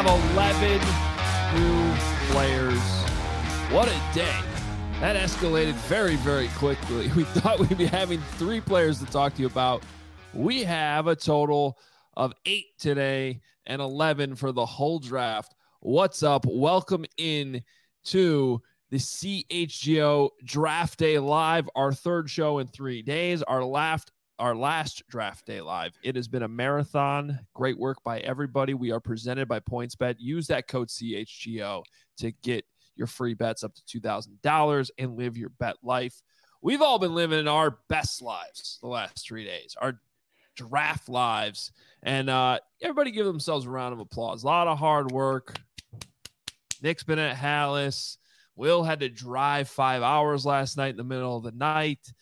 11 new players. What a day. That escalated very, very quickly. We thought we'd be having 3 players to talk to you about. We have a total of 8 today and 11 for the whole draft. What's up? Welcome in to the CHGO Draft Day Live, our third show in 3 days, our last Draft Day Live. It has been a marathon. Great work by everybody. We are presented by PointsBet. Use that code CHGO to get your free bets up to $2,000 and live your bet life. We've all been living our best lives the last 3 days, our draft lives. And everybody give themselves a round of applause. A lot of hard work. Nick's been at Hallis. Will had to drive 5 hours last night in the middle of the night.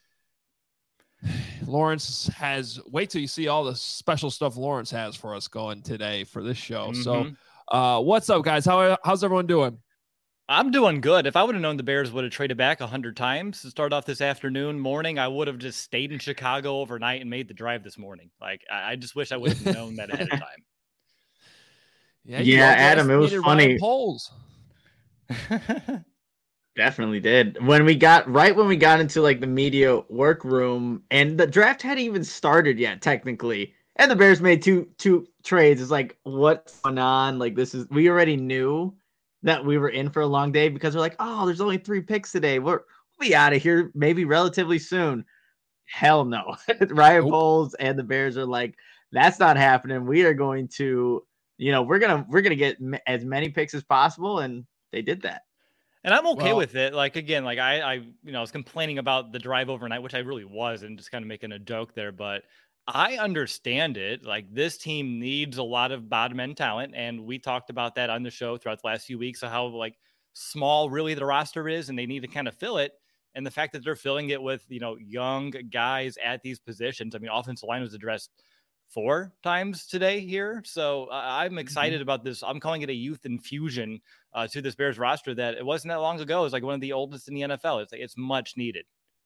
Lawrence has, wait till you see all the special stuff Lawrence has for us going today for this show. So what's up, guys? How's everyone doing? I'm doing good. If I would have known the Bears would have traded back 100 times to start off this morning, I would have just stayed in Chicago overnight and made the drive this morning. Like, I just wish I would have known that ahead of time. Yeah, Adam, it was funny. Polls. Definitely did. When we got into like the media workroom, and the draft hadn't even started yet, technically, and the Bears made two trades. It's like, what's going on? Like, we already knew that we were in for a long day because we're like, oh, there's only 3 picks today. We'll be out of here maybe relatively soon. Hell no. Ryan Poles and the Bears are like, that's not happening. We are going to, we're gonna get as many picks as possible, and they did that. And I'm okay with it. Like, again, like I was complaining about the drive overnight, which I really was, and just kind of making a joke there, but I understand it. Like, this team needs a lot of bottom end talent. And we talked about that on the show throughout the last few weeks of how like small really the roster is, and they need to kind of fill it. And the fact that they're filling it with, young guys at these positions. I mean, offensive line was addressed 4 times today here. So I'm excited about this. I'm calling it a youth infusion to this Bears roster that it wasn't that long ago. It was like one of the oldest in the NFL. It's much needed.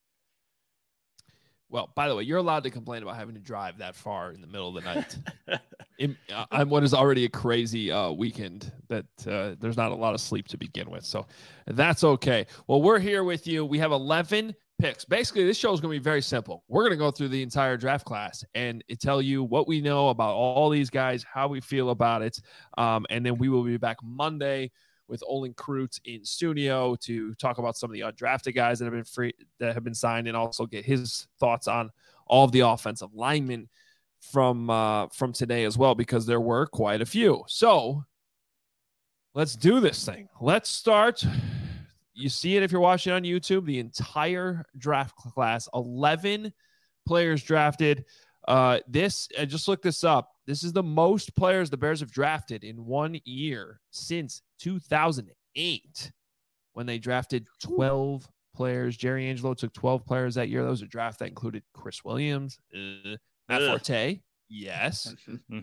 Well, by the way, you're allowed to complain about having to drive that far in the middle of the night. On what is already a crazy weekend that there's not a lot of sleep to begin with. So that's okay. Well, we're here with you. We have 11 picks. Basically, this show is going to be very simple. We're going to go through the entire draft class and tell you what we know about all these guys, how we feel about it. And then we will be back Monday with Olin Kreutz in studio to talk about some of the undrafted guys that have been signed, and also get his thoughts on all of the offensive linemen from today as well, because there were quite a few. So let's do this thing. Let's start. You see it if you're watching on YouTube, the entire draft class, 11 players drafted. I just looked this up. This is the most players the Bears have drafted in 1 year since 2008, when they drafted 12 players. Jerry Angelo took 12 players that year. That was a draft that included Chris Williams, Matt Forte, yes,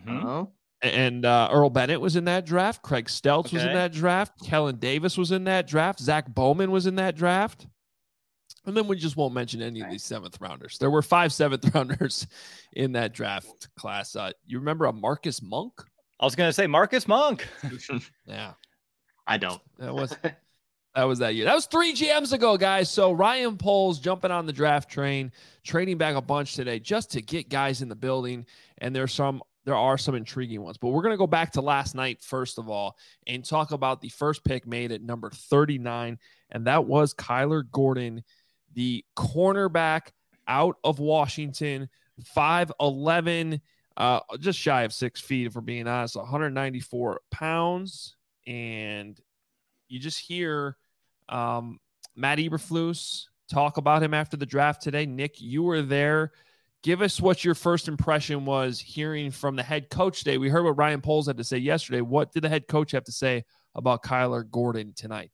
and Earl Bennett was in that draft. Craig Stelz was in that draft. Kellen Davis was in that draft. Zach Bowman was in that draft. And then we just won't mention any of these 7th rounders. There were 5 7th rounders in that draft class. You remember a Marcus Monk? I was going to say Marcus Monk. Yeah. I don't. That was that year. That was 3 GMs ago, guys. So Ryan Poles jumping on the draft train, trading back a bunch today just to get guys in the building. And there are some intriguing ones. But we're going to go back to last night, first of all, and talk about the first pick made at number 39. And that was Kyler Gordon, the cornerback out of Washington, 5'11", just shy of 6 feet, if we're being honest, 194 pounds. And you just hear Matt Eberflus talk about him after the draft today. Nick, you were there. Give us what your first impression was hearing from the head coach today. We heard what Ryan Poles had to say yesterday. What did the head coach have to say about Kyler Gordon tonight?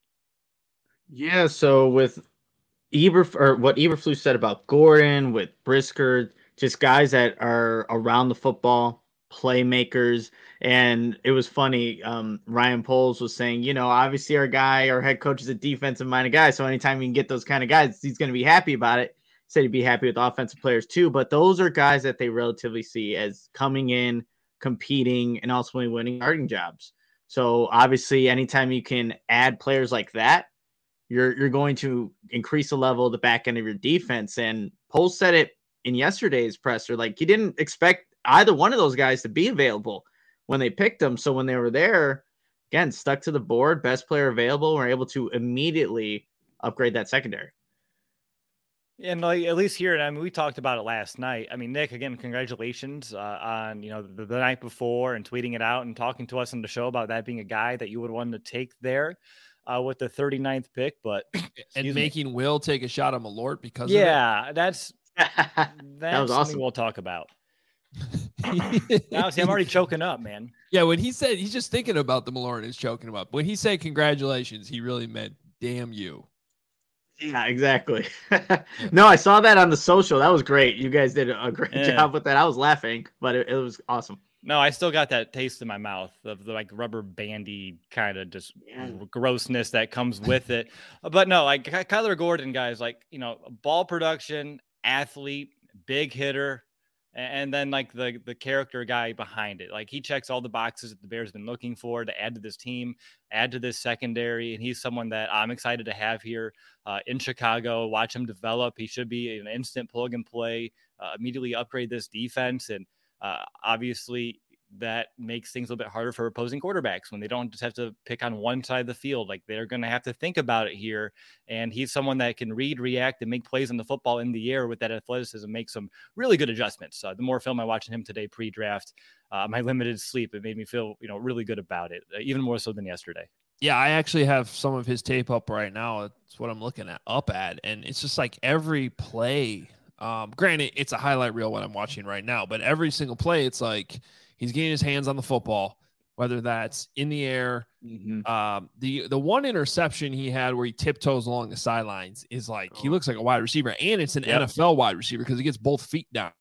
Yeah, so with what Eberflus said about Gordon, with Brisker, just guys that are around the football, playmakers. And it was funny. Ryan Poles was saying, obviously our head coach is a defensive minded guy. So anytime you can get those kind of guys, he's going to be happy about it. Said he'd be happy with offensive players too. But those are guys that they relatively see as coming in, competing and ultimately winning starting jobs. So obviously, anytime you can add players like that, you're going to increase the level of the back end of your defense. And Poles said it in yesterday's presser, like he didn't expect either one of those guys to be available when they picked them. So when they were there, again, stuck to the board, best player available, were able to immediately upgrade that secondary. And like, at least here, and I mean, we talked about it last night. I mean, Nick, again, congratulations on the night before and tweeting it out and talking to us on the show about that being a guy that you would want to take there with the 39th pick. But and making Will take a shot on Malort because that's that was awesome. We'll talk about. Now, see, I'm already choking up, man. Yeah, when he said he's just thinking about the Malort and is choking him up. When he said congratulations, he really meant damn you. Yeah, exactly. No, I saw that on the social. That was great. You guys did a great job with that. I was laughing, but it was awesome. No, I still got that taste in my mouth of the like rubber bandy kind of just grossness that comes with it. But no, like Kyler Gordon, guys, like, ball production, athlete, big hitter, and then like the character guy behind it. Like he checks all the boxes that the Bears have been looking for to add to this team, add to this secondary. And he's someone that I'm excited to have here in Chicago, watch him develop. He should be an instant plug and play, immediately upgrade this defense. And obviously that makes things a little bit harder for opposing quarterbacks when they don't just have to pick on one side of the field. Like they're going to have to think about it here. And he's someone that can read, react, and make plays on the football in the air with that athleticism, make some really good adjustments. The more film I watched him today pre-draft, my limited sleep, it made me feel, really good about it, even more so than yesterday. Yeah, I actually have some of his tape up right now. It's what I'm looking at. And it's just like every play. Granted, it's a highlight reel what I'm watching right now, but every single play, it's like he's getting his hands on the football, whether that's in the air. Mm-hmm. The one interception he had where he tiptoes along the sidelines is like he looks like a wide receiver, and it's an NFL wide receiver because he gets both feet down,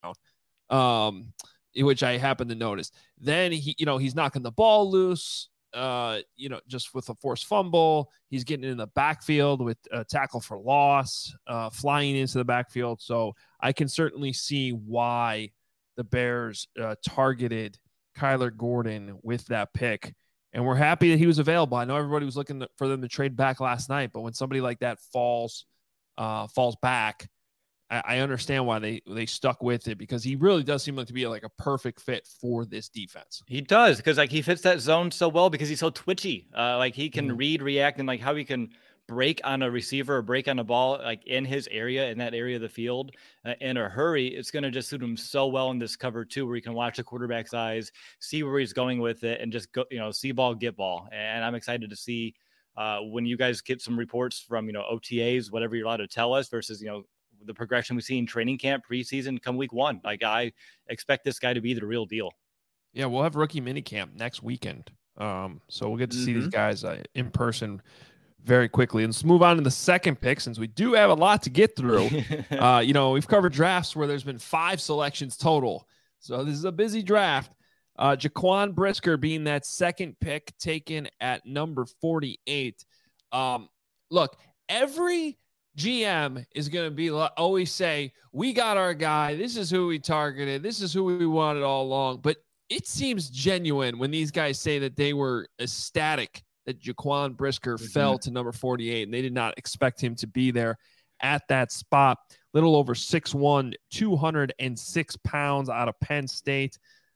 which I happen to notice. Then he's knocking the ball loose. Just with a forced fumble, he's getting in the backfield with a tackle for loss, flying into the backfield. So I can certainly see why the Bears targeted Kyler Gordon with that pick. And we're happy that he was available. I know everybody was looking for them to trade back last night, but when somebody like that falls back, I understand why they stuck with it, because he really does seem like to be like a perfect fit for this defense. He does, because like he fits that zone so well because he's so twitchy. Like he can read, react, and like how he can break on a receiver or break on a ball like in his area, in that area of the field in a hurry. It's going to just suit him so well in this cover too, where you can watch the quarterback's eyes, see where he's going with it, and just go, see ball, get ball. And I'm excited to see when you guys get some reports from, OTAs, whatever you're allowed to tell us, versus, the progression we see in training camp, preseason, come week one. Like I expect this guy to be the real deal. Yeah, we'll have rookie minicamp next weekend. So we'll get to see these guys in person very quickly. And let's move on to the second pick, since we do have a lot to get through. We've covered drafts where there's been 5 selections total. So this is a busy draft. Jaquan Brisker being that second pick taken at number 48. Look, every GM is going to be always say, we got our guy. This is who we targeted. This is who we wanted all along. But it seems genuine when these guys say that they were ecstatic that Jaquan Brisker fell to number 48, and they did not expect him to be there at that spot. Little over 6'1", 206 pounds out of Penn State.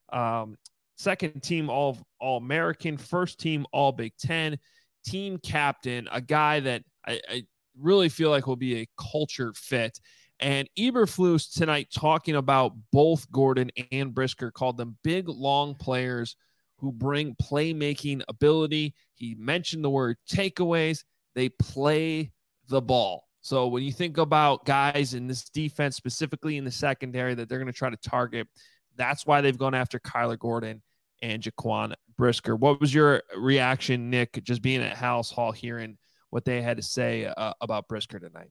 Second team All-American, first team All Big Ten, team captain, a guy that I really feel like will be a culture fit. And Eberflus tonight, talking about both Gordon and Brisker, called them big, long players who bring playmaking ability. He mentioned the word takeaways. They play the ball. So when you think about guys in this defense, specifically in the secondary, that they're going to try to target, that's why they've gone after Kyler Gordon and Jaquan Brisker. What was your reaction, Nick, just being at Halas Hall, hearing what they had to say about Brisker tonight?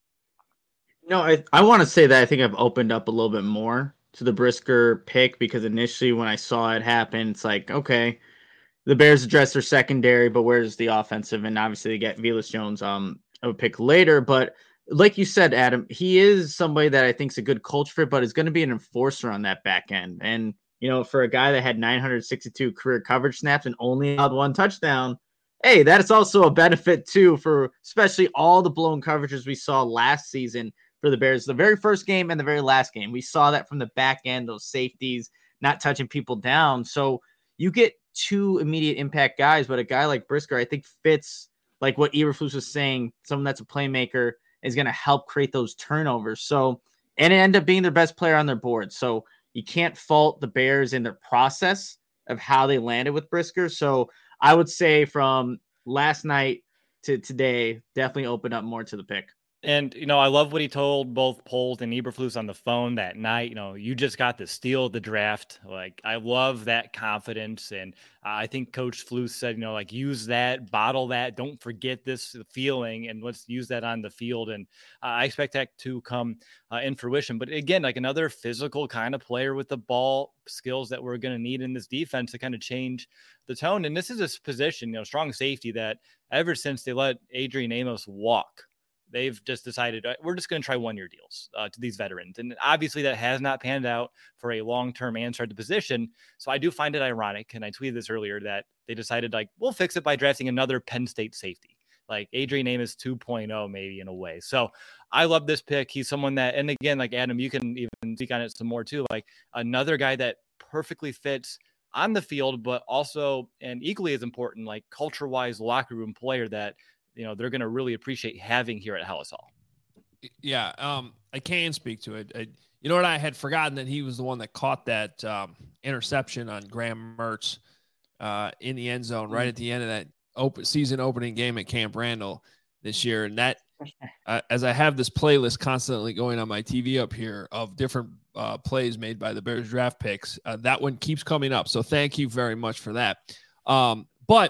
No, I want to say that I think I've opened up a little bit more to the Brisker pick, because initially when I saw it happen, it's like, okay, the Bears address their secondary, but where's the offensive? And obviously they get Velus Jones a pick later. But like you said, Adam, he is somebody that I think is a good culture fit, but is going to be an enforcer on that back end. And for a guy that had 962 career coverage snaps and only allowed 1 touchdown, hey, that is also a benefit too for especially all the blown coverages we saw last season for the Bears. The very first game and the very last game, we saw that from the back end, those safeties not touching people down. So you get 2 immediate impact guys, but a guy like Brisker, I think, fits like what Eberflus was saying. Someone that's a playmaker is going to help create those turnovers. So, and it ended up being their best player on their board. So you can't fault the Bears in their process of how they landed with Brisker. So I would say from last night to today, definitely opened up more to the pick. And, I love what he told both Poles and Eberflus on the phone that night. You just got the steal of the draft. Like, I love that confidence. And I think Coach Flus said, use that, bottle that. Don't forget this feeling, and let's use that on the field. And I expect that to come in fruition. But again, like another physical kind of player with the ball skills that we're going to need in this defense to kind of change the tone. And this is a position, strong safety that ever since they let Adrian Amos walk, they've just decided we're just going to try 1-year deals to these veterans. And obviously that has not panned out for a long-term answer at the position. So I do find it ironic. And I tweeted this earlier that they decided we'll fix it by drafting another Penn State safety, like Adrian Amos 2.0, maybe in a way. So I love this pick. He's someone that, and again, like Adam, you can even speak on it some more too, like another guy that perfectly fits on the field, but also, and equally as important, like culture-wise locker room player that, they're going to really appreciate having here at Halas Hall. Yeah, I can speak to it. You know what? I had forgotten that he was the one that caught that interception on Graham Mertz in the end zone right at the end of that season opening game at Camp Randall this year. And that, as I have this playlist constantly going on my TV up here of different plays made by the Bears draft picks, that one keeps coming up. So thank you very much for that. But,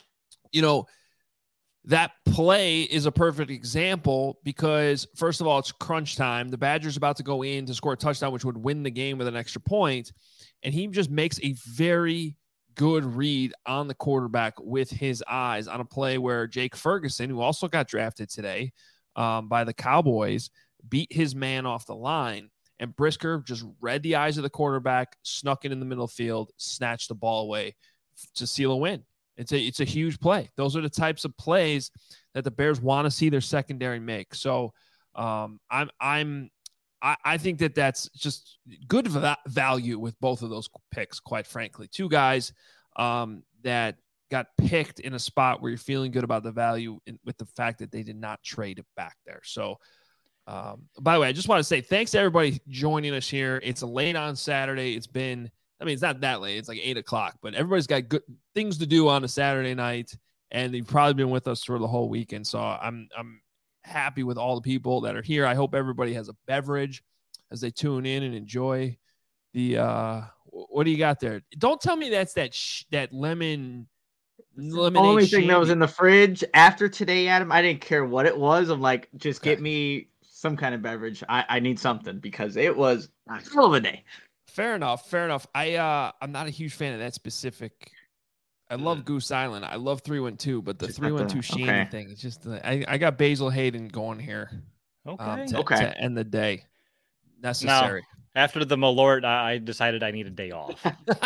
that play is a perfect example because, first of all, it's crunch time. The Badgers about to go in to score a touchdown, which would win the game with an extra point. And he just makes a very good read on the quarterback with his eyes on a play where Jake Ferguson, who also got drafted today by the Cowboys, beat his man off the line. And Brisker just read the eyes of the quarterback, snuck it in the middle of the field, snatched the ball away to seal a win. It's a huge play. Those are the types of plays that the Bears want to see their secondary make. So I think that that's just good value with both of those picks, quite frankly. 2 guys that got picked in a spot where you're feeling good about the value with the fact that they did not trade it back there. So, by the way, I just want to say thanks to everybody joining us here. It's late on Saturday. It's not that late. It's like 8:00, but everybody's got good things to do on a Saturday night, and they've probably been with us for the whole weekend. So I'm happy with all the people that are here. I hope everybody has a beverage as they tune in and enjoy the what do you got there? Don't tell me that's that lemonade. The only thing that was in the fridge after today, Adam, I didn't care what it was. I'm like, just get me some kind of beverage. I need something because it was a hell of a day. Fair enough. I'm not a huge fan of that specific. I love Goose Island. I love 312, but the 312 Shandy thing, it's just I got Basil Hayden going here. To end the day. Necessary. Now, after the Malort, I decided I need a day off.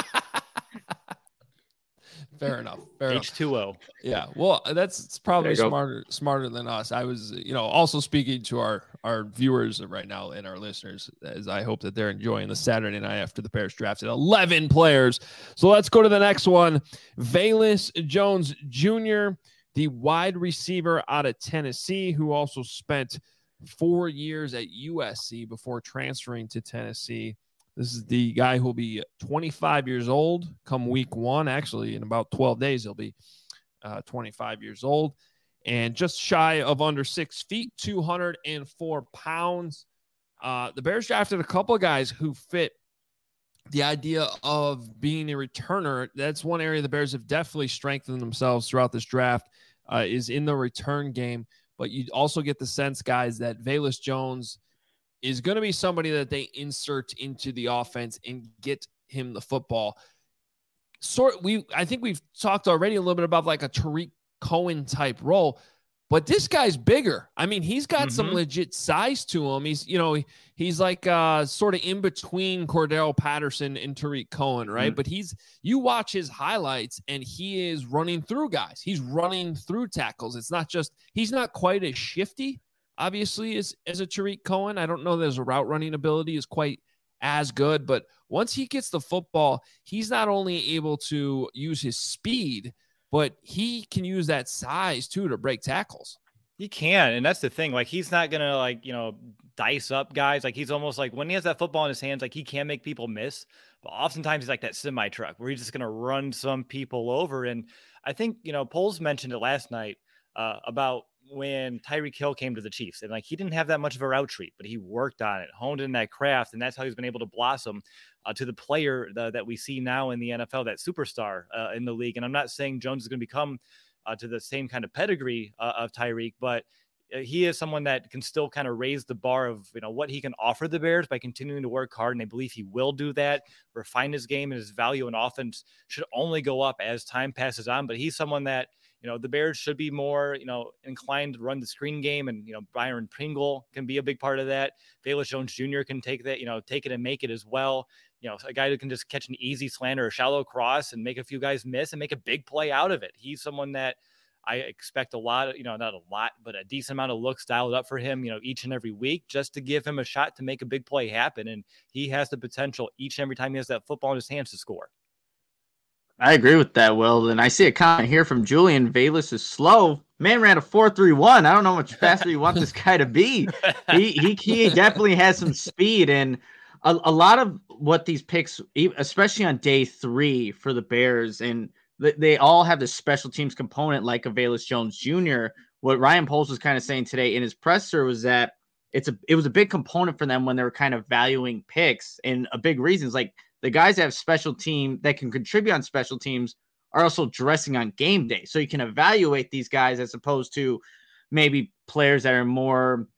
Fair enough. H2O. Yeah. Well, that's probably smarter than us. I was, also speaking to our viewers right now and our listeners, as I hope that they're enjoying the Saturday night after the Bears drafted 11 players. So let's go to the next one. Velus Jones Jr., the wide receiver out of Tennessee, who also spent 4 years at USC before transferring to Tennessee. This is the guy who will be 25 years old come week 1. Actually, in about 12 days, he'll be 25 years old. And just shy of under 6 feet, 204 pounds. The Bears drafted a couple of guys who fit the idea of being a returner. That's one area the Bears have definitely strengthened themselves throughout this draft, is in the return game. But you also get the sense, guys, that Velus Jones is going to be somebody that they insert into the offense and get him the football. I think we've talked already a little bit about like a Tariq Cohen type role. But this guy's bigger. I mean, he's got some Mhm. legit size to him. He's like sort of in between Cordell Patterson and Tariq Cohen, right? But you watch his highlights and he is running through guys. He's running through tackles. It's not just, he's not quite as shifty, obviously, as a Tariq Cohen. I don't know that his route running ability is quite as good, but once he gets the football, he's not only able to use his speed, but he can use that size too to break tackles. He can, and that's the thing. Like, he's not gonna dice up guys. Like, he's almost like, when he has that football in his hands, like, he can make people miss. But oftentimes he's like that semi truck where he's just gonna run some people over. And I think Poles mentioned it last night about when Tyreek Hill came to the Chiefs, and like, he didn't have that much of a route treat, but he worked on it, honed in that craft, and that's how he's been able to blossom to the player that we see now in the NFL, that superstar in the league. And I'm not saying Jones is going to become to the same kind of pedigree of Tyreek, but he is someone that can still kind of raise the bar of what he can offer the Bears by continuing to work hard, and I believe he will do that. Refine his game, and his value in offense should only go up as time passes on. But he's someone that the Bears should be more inclined to run the screen game, and Byron Pringle can be a big part of that. Velus Jones Jr. can take that, take it and make it as well. A guy who can just catch an easy slant or a shallow cross and make a few guys miss and make a big play out of it. He's someone that I expect a lot, not a lot, but a decent amount of looks dialed up for him, each and every week, just to give him a shot to make a big play happen. And he has the potential each and every time he has that football in his hands to score. I agree with that, Will. And I see a comment here from Julian. Velus is slow. Man ran a 4.31. I don't know how much faster you want this guy to be. He definitely has some speed. And a lot of what these picks, especially on day 3 for the Bears, and they all have this special teams component like a Velus Jones Jr. What Ryan Poles was kind of saying today in his presser was that it was a big component for them when they were kind of valuing picks. And a big reason is like, the guys that have special team that can contribute on special teams are also dressing on game day. So you can evaluate these guys as opposed to maybe players that are more,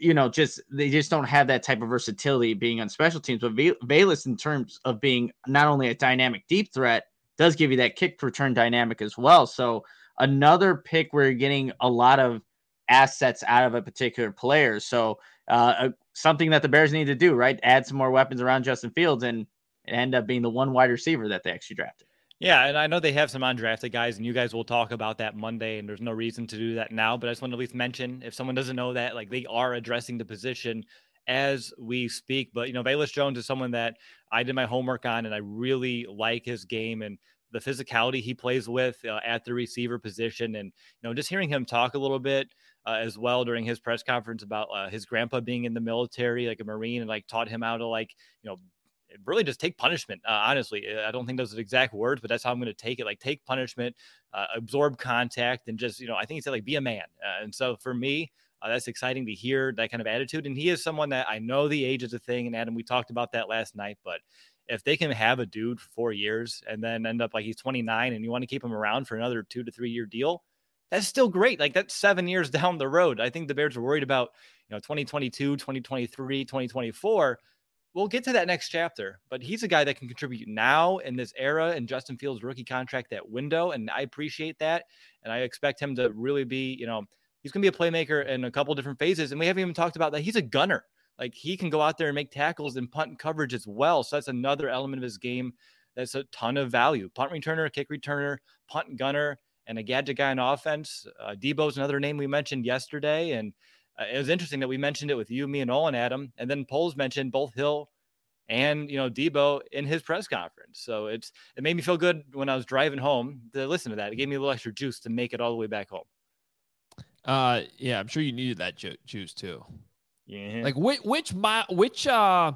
they just don't have that type of versatility being on special teams. But Velus, in terms of being not only a dynamic deep threat, does give you that kick return dynamic as well. So another pick where you're getting a lot of assets out of a particular player. So something that the Bears need to do, right? Add some more weapons around Justin Fields and end up being the one wide receiver that they actually drafted. Yeah, and I know they have some undrafted guys, and you guys will talk about that Monday, and there's no reason to do that now, but I just want to at least mention, if someone doesn't know that, like, they are addressing the position as we speak. But, Velus Jones is someone that I did my homework on, and I really like his game and the physicality he plays with at the receiver position. And, just hearing him talk a little bit as well during his press conference about his grandpa being in the military, like a Marine, and like taught him how to really just take punishment. Honestly, I don't think those are the exact words, but that's how I'm going to take it. Like, take punishment, absorb contact, and just, I think he said, like, be a man. And so for me, that's exciting to hear that kind of attitude. And he is someone that, I know the age is a thing. And Adam, we talked about that last night, but if they can have a dude for 4 years and then end up like he's 29 and you want to keep him around for another 2 to 3 year deal, that's still great. Like, that's 7 years down the road. I think the Bears are worried about, 2022, 2023, 2024. We'll get to that next chapter, but he's a guy that can contribute now in this era and Justin Fields' rookie contract, that window. And I appreciate that. And I expect him to really be, he's going to be a playmaker in a couple different phases. And we haven't even talked about that. He's a gunner. Like, he can go out there and make tackles and punt and coverage as well. So that's another element of his game that's a ton of value. Punt returner, kick returner, punt and gunner, and a gadget guy on offense. Debo's another name we mentioned yesterday. And it was interesting that we mentioned it with you, me, and Olin, Adam. And then Poles mentioned both Hill and, Debo in his press conference. So it made me feel good when I was driving home to listen to that. It gave me a little extra juice to make it all the way back home. Yeah, I'm sure you needed that juice too. Yeah. Like which I'm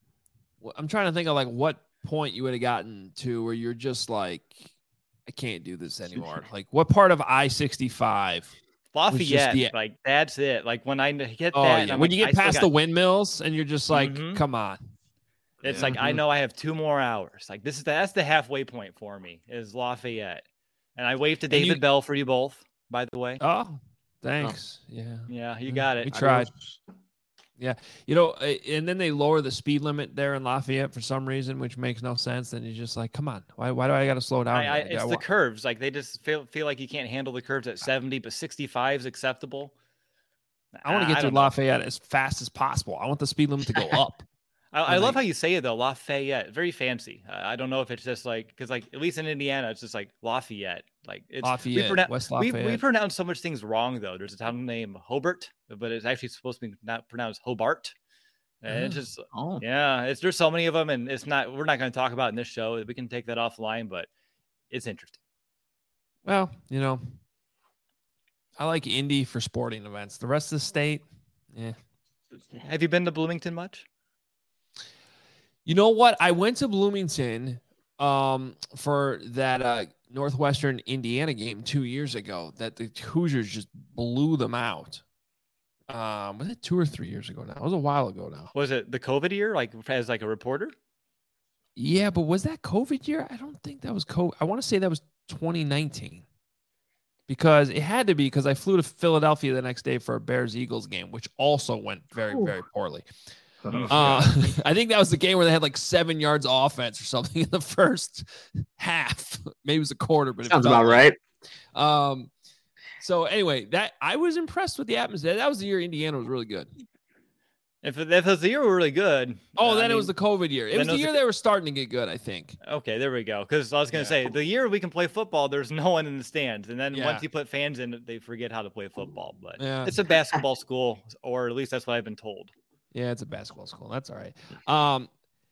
trying to think of like what point you would have gotten to where you're just like, I can't do this anymore. Like, what part of I-65? Lafayette, like, that's it. Like, when I get that, yeah. When you get past the windmills and you're just like, come on. It's like, I know I have 2 more hours. Like, that's the halfway point for me, is Lafayette. And I waved to David Bell for you both, by the way. Oh, thanks. Yeah. Yeah, you got it. We tried. Yeah. And then they lower the speed limit there in Lafayette for some reason, which makes no sense. Then you're just like, come on, why do I got to slow down? It's the curves. Like they just feel like you can't handle the curves at 70, but 65 is acceptable. I want to get to Lafayette as fast as possible. I want the speed limit to go up. I love how you say it though, Lafayette. Very fancy. I don't know if it's just like, because like at least in Indiana, it's just like Lafayette. Like it's Lafayette, West Lafayette. We pronounce so much things wrong though. There's a town named Hobart, but it's actually supposed to be not pronounced Hobart. And it's just there's so many of them, and we're not going to talk about it in this show. We can take that offline, but it's interesting. Well, I like Indy for sporting events. The rest of the state, yeah. Have you been to Bloomington much? You know what? I went to Bloomington for that Northwestern Indiana game 2 years ago that the Hoosiers just blew them out. Was it 2 or 3 years ago now? It was a while ago now. Was it the COVID year, like as like a reporter? Yeah, but was that COVID year? I don't think that was COVID. I want to say that was 2019. Because it had to be, because I flew to Philadelphia the next day for a Bears-Eagles game, which also went very, very poorly. I think that was the game where they had like 7 yards of offense or something in the first half. Maybe it was a quarter, but sounds about right. So anyway, that I was impressed with the atmosphere. That was the year Indiana was really good. If it was the year were really good. Then it was the COVID year. It was the year they were starting to get good, I think. Okay, there we go. Because I was going to say, the year we can play football, there's no one in the stands. And then once you put fans in, they forget how to play football. But it's a basketball school, or at least that's what I've been told. Yeah, it's a basketball school. That's all right.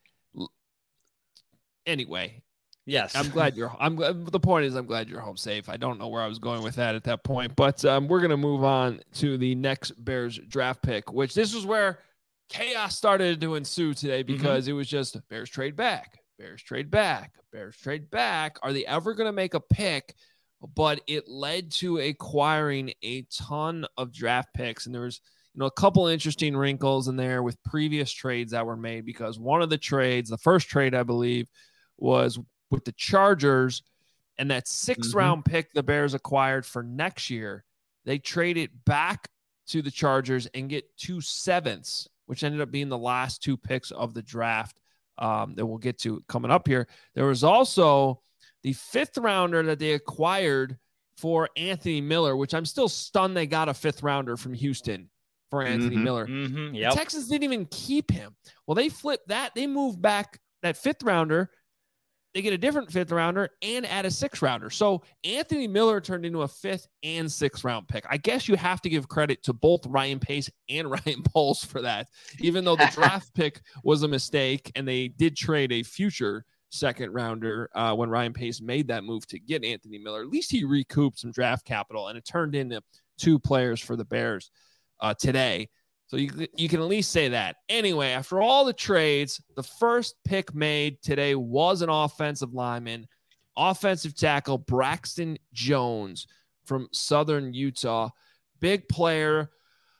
Anyway. Yes. The point is, I'm glad you're home safe. I don't know where I was going with that at that point. But we're going to move on to the next Bears draft pick, which this is where chaos started to ensue today, because it was just Bears trade back, Bears trade back, Bears trade back. Are they ever going to make a pick? But it led to acquiring a ton of draft picks. And there was, a couple interesting wrinkles in there with previous trades that were made, because one of the trades, the first trade, I believe, was with the Chargers, and that 6th round pick the Bears acquired for next year, they traded back to the Chargers and get 2 7ths, which ended up being the last 2 picks of the draft that we'll get to coming up here. There was also the 5th rounder that they acquired for Anthony Miller, which I'm still stunned they got a 5th rounder from Houston for Anthony Miller. The Texans didn't even keep him. Well, they flipped that. They moved back that 5th rounder. They get a different 5th rounder and add a 6th rounder. So Anthony Miller turned into a 5th and 6th round pick. I guess you have to give credit to both Ryan Pace and Ryan Poles for that, even though the draft pick was a mistake and they did trade a future 2nd rounder when Ryan Pace made that move to get Anthony Miller. At least he recouped some draft capital, and it turned into 2 players for the Bears today. So you can at least say that. Anyway, after all the trades, the first pick made today was an offensive lineman, offensive tackle Braxton Jones from Southern Utah. Big player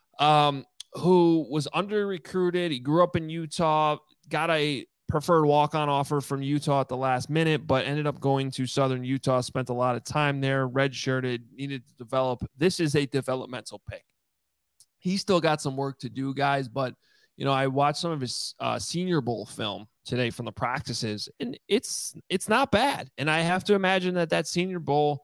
who was under-recruited. He grew up in Utah, got a preferred walk-on offer from Utah at the last minute, but ended up going to Southern Utah, spent a lot of time there, redshirted, needed to develop. This is a developmental pick. He's still got some work to do, guys, but, I watched some of his Senior Bowl film today from the practices, and it's not bad. And I have to imagine that Senior Bowl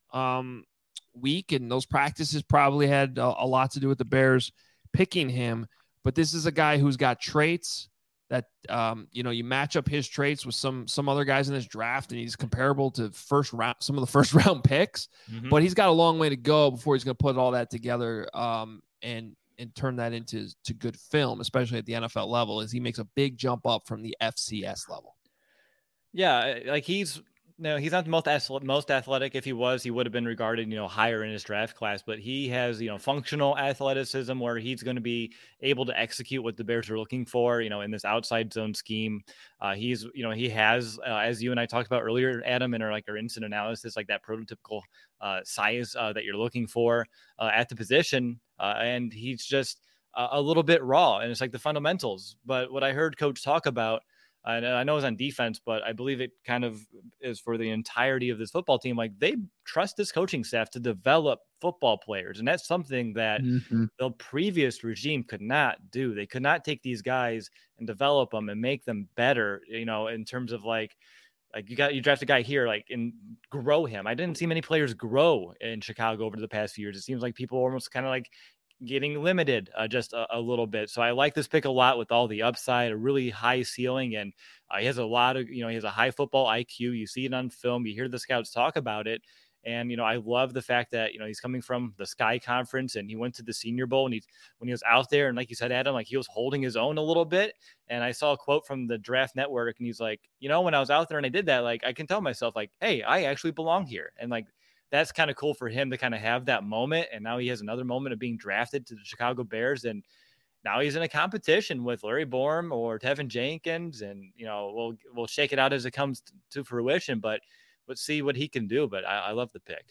week and those practices probably had a lot to do with the Bears picking him. But this is a guy who's got traits that, you match up his traits with some other guys in this draft, and he's comparable to some of the first round picks, but he's got a long way to go before he's going to put all that together and turn that into good film, especially at the NFL level, as he makes a big jump up from the FCS level. Yeah, like he's not the most athletic. If he was, he would have been regarded, higher in his draft class, but he has, functional athleticism where he's going to be able to execute what the Bears are looking for, in this outside zone scheme. He has, as you and I talked about earlier, Adam, in our instant analysis, like that prototypical size that you're looking for at the position. And he's just a little bit raw, and it's like the fundamentals. But what I heard Coach talk about I know it's on defense, but I believe it kind of is for the entirety of this football team. Like, they trust this coaching staff to develop football players. And that's something that the previous regime could not do. They could not take these guys and develop them and make them better, in terms of like you draft a guy here, and grow him. I didn't see many players grow in Chicago over the past few years. It seems like people are almost kind of like getting limited just a little bit. So I like this pick a lot with all the upside, a really high ceiling. And he has a lot of, he has a high football IQ. You see it on film, you hear the scouts talk about it. And, I love the fact that, he's coming from the Sky Conference and he went to the Senior Bowl, and when he was out there, and like you said, Adam, like he was holding his own a little bit. And I saw a quote from the Draft Network, and he's like, when I was out there and I did that, like, I can tell myself like, hey, I actually belong here. And like, that's kind of cool for him to kind of have that moment. And now he has another moment of being drafted to the Chicago Bears. And now he's in a competition with Larry Borom or Tevin Jenkins. And, we'll shake it out as it comes to fruition, but let's see what he can do. But I love the pick.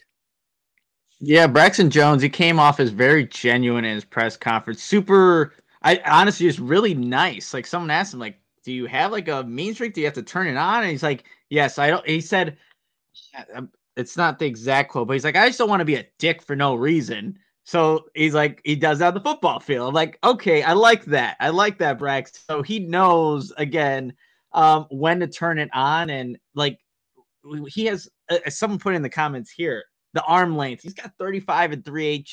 Yeah, Braxton Jones, he came off as very genuine in his press conference. I honestly, just really nice. Like, someone asked him, like, do you have like a mean streak? Do you have to turn it on? And he's like, yes, I don't. He said, it's not the exact quote, but he's like, I just don't want to be a dick for no reason. So he's like, he does that on the football field. I'm like, okay, I like that. I like that, Brax. So he knows, again, when to turn it on. And like, he has, someone put in the comments here, the arm length. He's got 35 and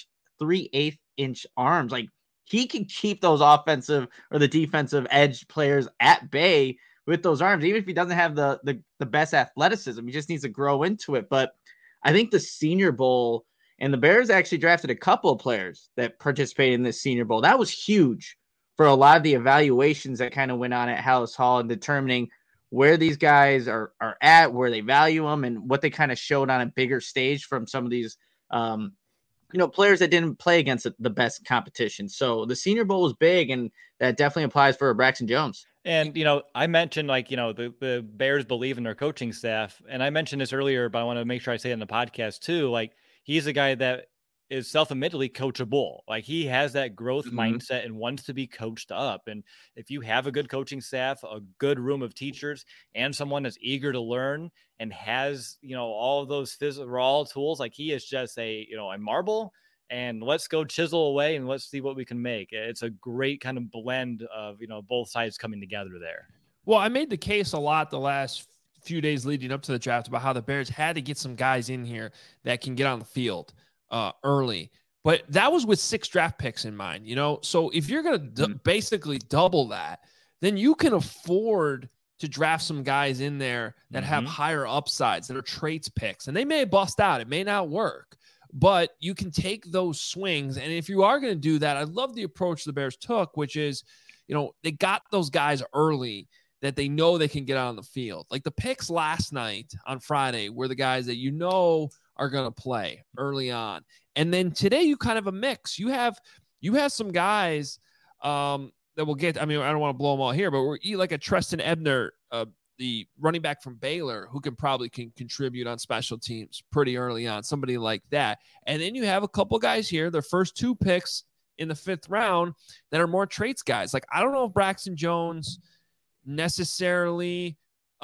3/8 inch arms. Like, he can keep those offensive or the defensive edge players at bay with those arms, even if he doesn't have the best athleticism. He just needs to grow into it. But I think the Senior Bowl, and the Bears actually drafted a couple of players that participated in this Senior Bowl. That was huge for a lot of the evaluations that kind of went on at Halas Hall and determining where these guys are at, where they value them, and what they kind of showed on a bigger stage from some of these players that didn't play against the best competition. So the Senior Bowl was big, and that definitely applies for Braxton Jones. And, I mentioned the Bears believe in their coaching staff. And I mentioned this earlier, but I want to make sure I say it in the podcast too. Like, he's a guy that is self-admittedly coachable. Like, he has that growth mindset and wants to be coached up. And if you have a good coaching staff, a good room of teachers, and someone that's eager to learn and has, all of those raw tools, like, he is just a marble. And let's go chisel away and let's see what we can make. It's a great kind of blend of, both sides coming together there. Well, I made the case a lot the last few days leading up to the draft about how the Bears had to get some guys in here that can get on the field early. But that was with 6 draft picks in mind, So if you're going to basically double that, then you can afford to draft some guys in there that have higher upsides, that are traits picks. And they may bust out. It may not work. But you can take those swings. And if you are going to do that, I love the approach the Bears took, which is, they got those guys early that they know they can get out on the field. Like, the picks last night on Friday were the guys that are going to play early on. And then today you kind of a mix. You have some guys that will get, I don't want to blow them all here, but we're like a Treston Ebner, the running back from Baylor, who can contribute on special teams pretty early on, somebody like that. And then you have a couple guys here, their first 2 picks in the 5th round, that are more traits guys. Like, I don't know if Braxton Jones necessarily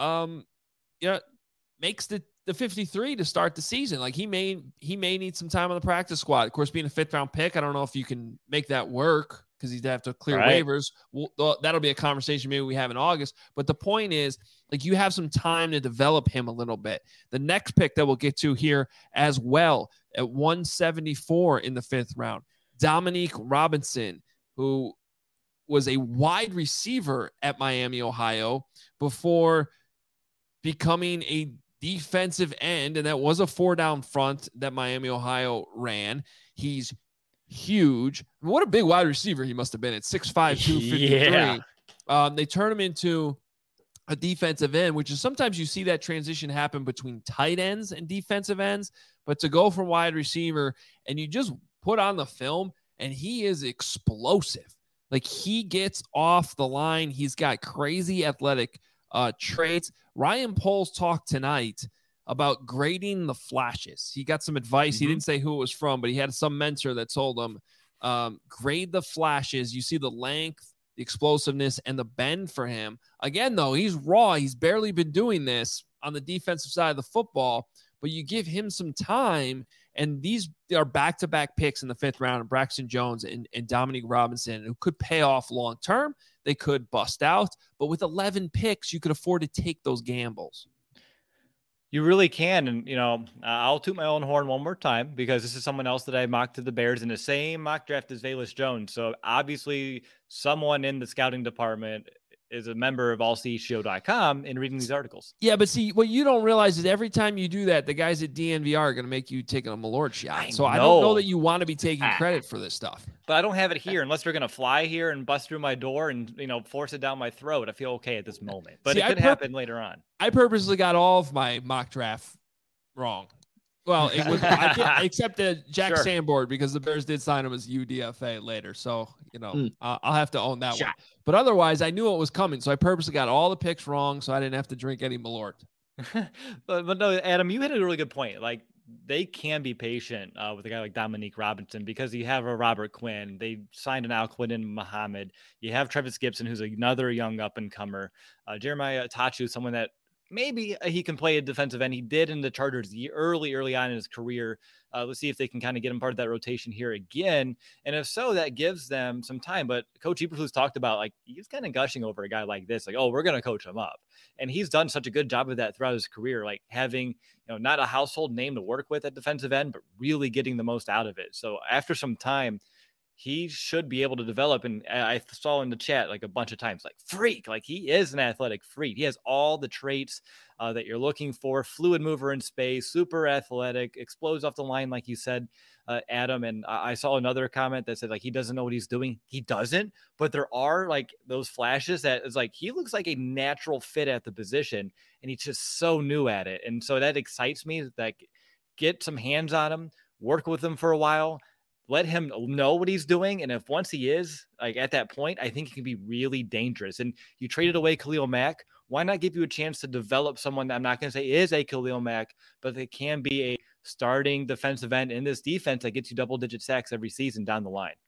makes the 53 to start the season. Like, he may need some time on the practice squad. Of course, being a 5th round pick, I don't know if you can make that work, because he'd have to clear waivers. Well, that'll be a conversation maybe we have in August. But the point is, like, you have some time to develop him a little bit. The next pick that we'll get to here as well, at 174 in the 5th round, Dominique Robinson, who was a wide receiver at Miami, Ohio, before becoming a defensive end. And that was a 4-down front that Miami, Ohio ran. He's huge. What a big wide receiver he must have been at 6'5", 253. Yeah. They turn him into a defensive end, which is sometimes you see that transition happen between tight ends and defensive ends, but to go from wide receiver, and you just put on the film, and he is explosive. Like, he gets off the line. He's got crazy athletic traits. Ryan Poles talked tonight about grading the flashes. He got some advice. He didn't say who it was from, but he had some mentor that told him, grade the flashes. You see the length, the explosiveness, and the bend for him. Again, though, he's raw. He's barely been doing this on the defensive side of the football, but you give him some time, and these are back-to-back picks in the 5th round, Braxton Jones and Dominique Robinson, who could pay off long-term. They could bust out, but with 11 picks, you could afford to take those gambles. You really can. And, I'll toot my own horn one more time because this is someone else that I mocked to the Bears in the same mock draft as Velus Jones. So obviously someone in the scouting department is a member of allcshow.com and reading these articles. Yeah, but see, what you don't realize is every time you do that, the guys at DNVR are going to make you take a Malort shot. I don't know that you want to be taking credit for this stuff. But I don't have it here unless they're going to fly here and bust through my door and, force it down my throat. I feel okay at this moment. But it could happen later on. I purposely got all of my mock draft wrong. Well, it was except the Jack Sanborn, because the Bears did sign him as UDFA later. So, I'll have to own that one. But otherwise, I knew it was coming. So I purposely got all the picks wrong so I didn't have to drink any Malort. but no, Adam, you hit a really good point. Like, they can be patient with a guy like Dominique Robinson because you have a Robert Quinn. They signed an Al-Quinn Muhammad. You have Travis Gibson, who's another young up-and-comer. Jeremiah Tachu, someone that maybe he can play a defensive end. He did in the Chargers early on in his career. Let's see if they can kind of get him part of that rotation here again. And if so, that gives them some time. But Coach Eberflus talked about, like, he's kind of gushing over a guy like this, like, oh, we're going to coach him up. And he's done such a good job of that throughout his career, like having, not a household name to work with at defensive end, but really getting the most out of it. So after some time, he should be able to develop. And I saw in the chat like a bunch of times, like, freak, like he is an athletic freak. He has all the traits that you're looking for. Fluid mover in space, super athletic, explodes off the line, like you said, Adam. And I saw another comment that said, like, he doesn't know what he's doing. He doesn't, but there are like those flashes that is like, he looks like a natural fit at the position and he's just so new at it. And so that excites me. Like, get some hands on him, work with him for a while, let him know what he's doing. And if once he is like at that point, I think it can be really dangerous. And you traded away Khalil Mack. Why not give you a chance to develop someone that I'm not going to say is a Khalil Mack, but they can be a starting defensive end in this defense that gets you double-digit sacks every season down the line?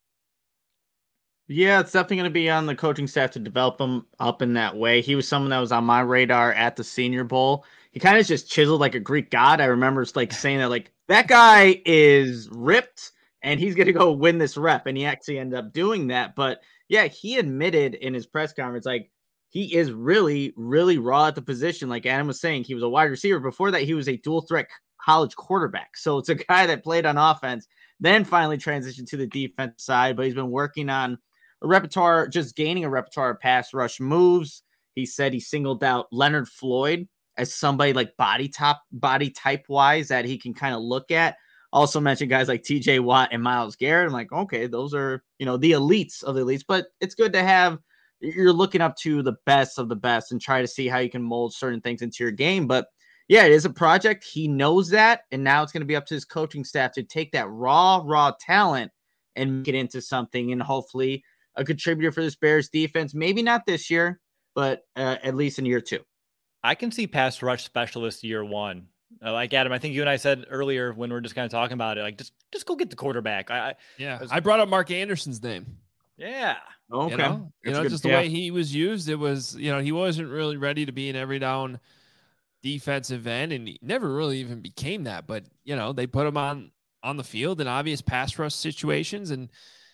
Yeah, it's definitely going to be on the coaching staff to develop him up in that way. He was someone that was on my radar at the Senior Bowl. He kind of just chiseled like a Greek god. I remember like saying that, like, that guy is ripped and he's going to go win this rep. And he actually ended up doing that. But yeah, he admitted in his press conference, like, he is really, really raw at the position. Like Adam was saying, he was a wide receiver. Before that, he was a dual threat college quarterback. So it's a guy that played on offense, then finally transitioned to the defense side. But he's been working on a repertoire, just gaining a repertoire of pass rush moves. He said he singled out Leonard Floyd as somebody like body type wise that he can kind of look at. Also mentioned guys like TJ Watt and Myles Garrett. I'm like, okay, those are, the elites of the elites, but it's good to have, you're looking up to the best of the best and try to see how you can mold certain things into your game. But yeah, it is a project. He knows that. And now it's going to be up to his coaching staff to take that raw talent and make it into something, and hopefully a contributor for this Bears defense. Maybe not this year, but at least in year 2. I can see pass rush specialist year 1. Like Adam, I think you and I said earlier when we were just kind of talking about it, like just go get the quarterback. I brought up Mark Anderson's name. Yeah. Okay. Just the way he was used, it was, he wasn't really ready to be an every down defensive end, and he never really even became that. But, they put him on the field in obvious pass rush situations, and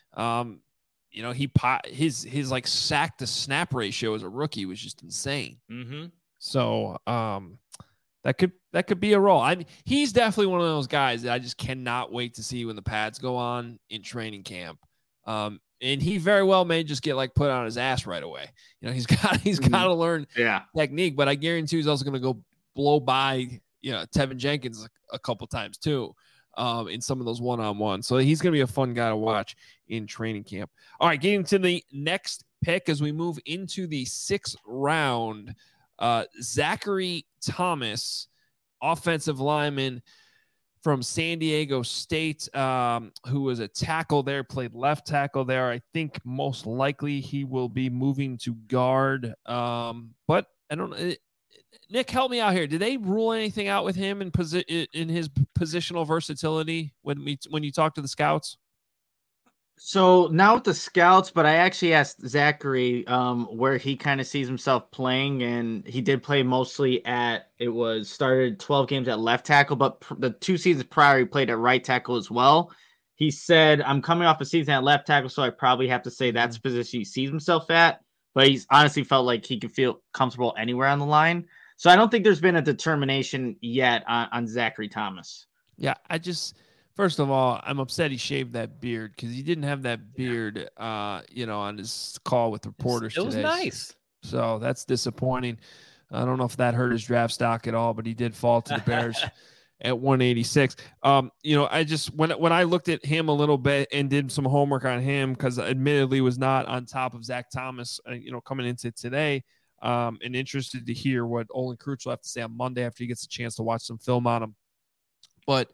his like sack to snap ratio as a rookie was just insane. Mm-hmm. So that could be a role. He's definitely one of those guys that I just cannot wait to see when the pads go on in training camp. And he very well may just get like put on his ass right away. He's got to learn technique, but I guarantee he's also going to go blow by, Tevin Jenkins a couple times too, in some of those one-on-ones. So he's going to be a fun guy to watch in training camp. All right, getting to the next pick as we move into the 6th round, Zachary Thomas, offensive lineman from San Diego State, who was a tackle there, played left tackle there. I think most likely he will be moving to guard. But I don't know. Nick, help me out here. Did they rule anything out with him in his positional versatility when you talk to the scouts? So now with the scouts, but I actually asked Zachary where he kind of sees himself playing, and he did play mostly started 12 games at left tackle, but the 2 seasons prior he played at right tackle as well. He said, I'm coming off a season at left tackle, so I probably have to say that's the position he sees himself at, but he's honestly felt like he can feel comfortable anywhere on the line. So I don't think there's been a determination yet on Zachary Thomas. Yeah, first of all, I'm upset he shaved that beard because he didn't have that beard, on his call with reporters today. It was nice. So that's disappointing. I don't know if that hurt his draft stock at all, but he did fall to the Bears at 186. When I looked at him a little bit and did some homework on him, because admittedly was not on top of Zach Thomas, coming into today, and interested to hear what Olin Kreutz will have to say on Monday after he gets a chance to watch some film on him. But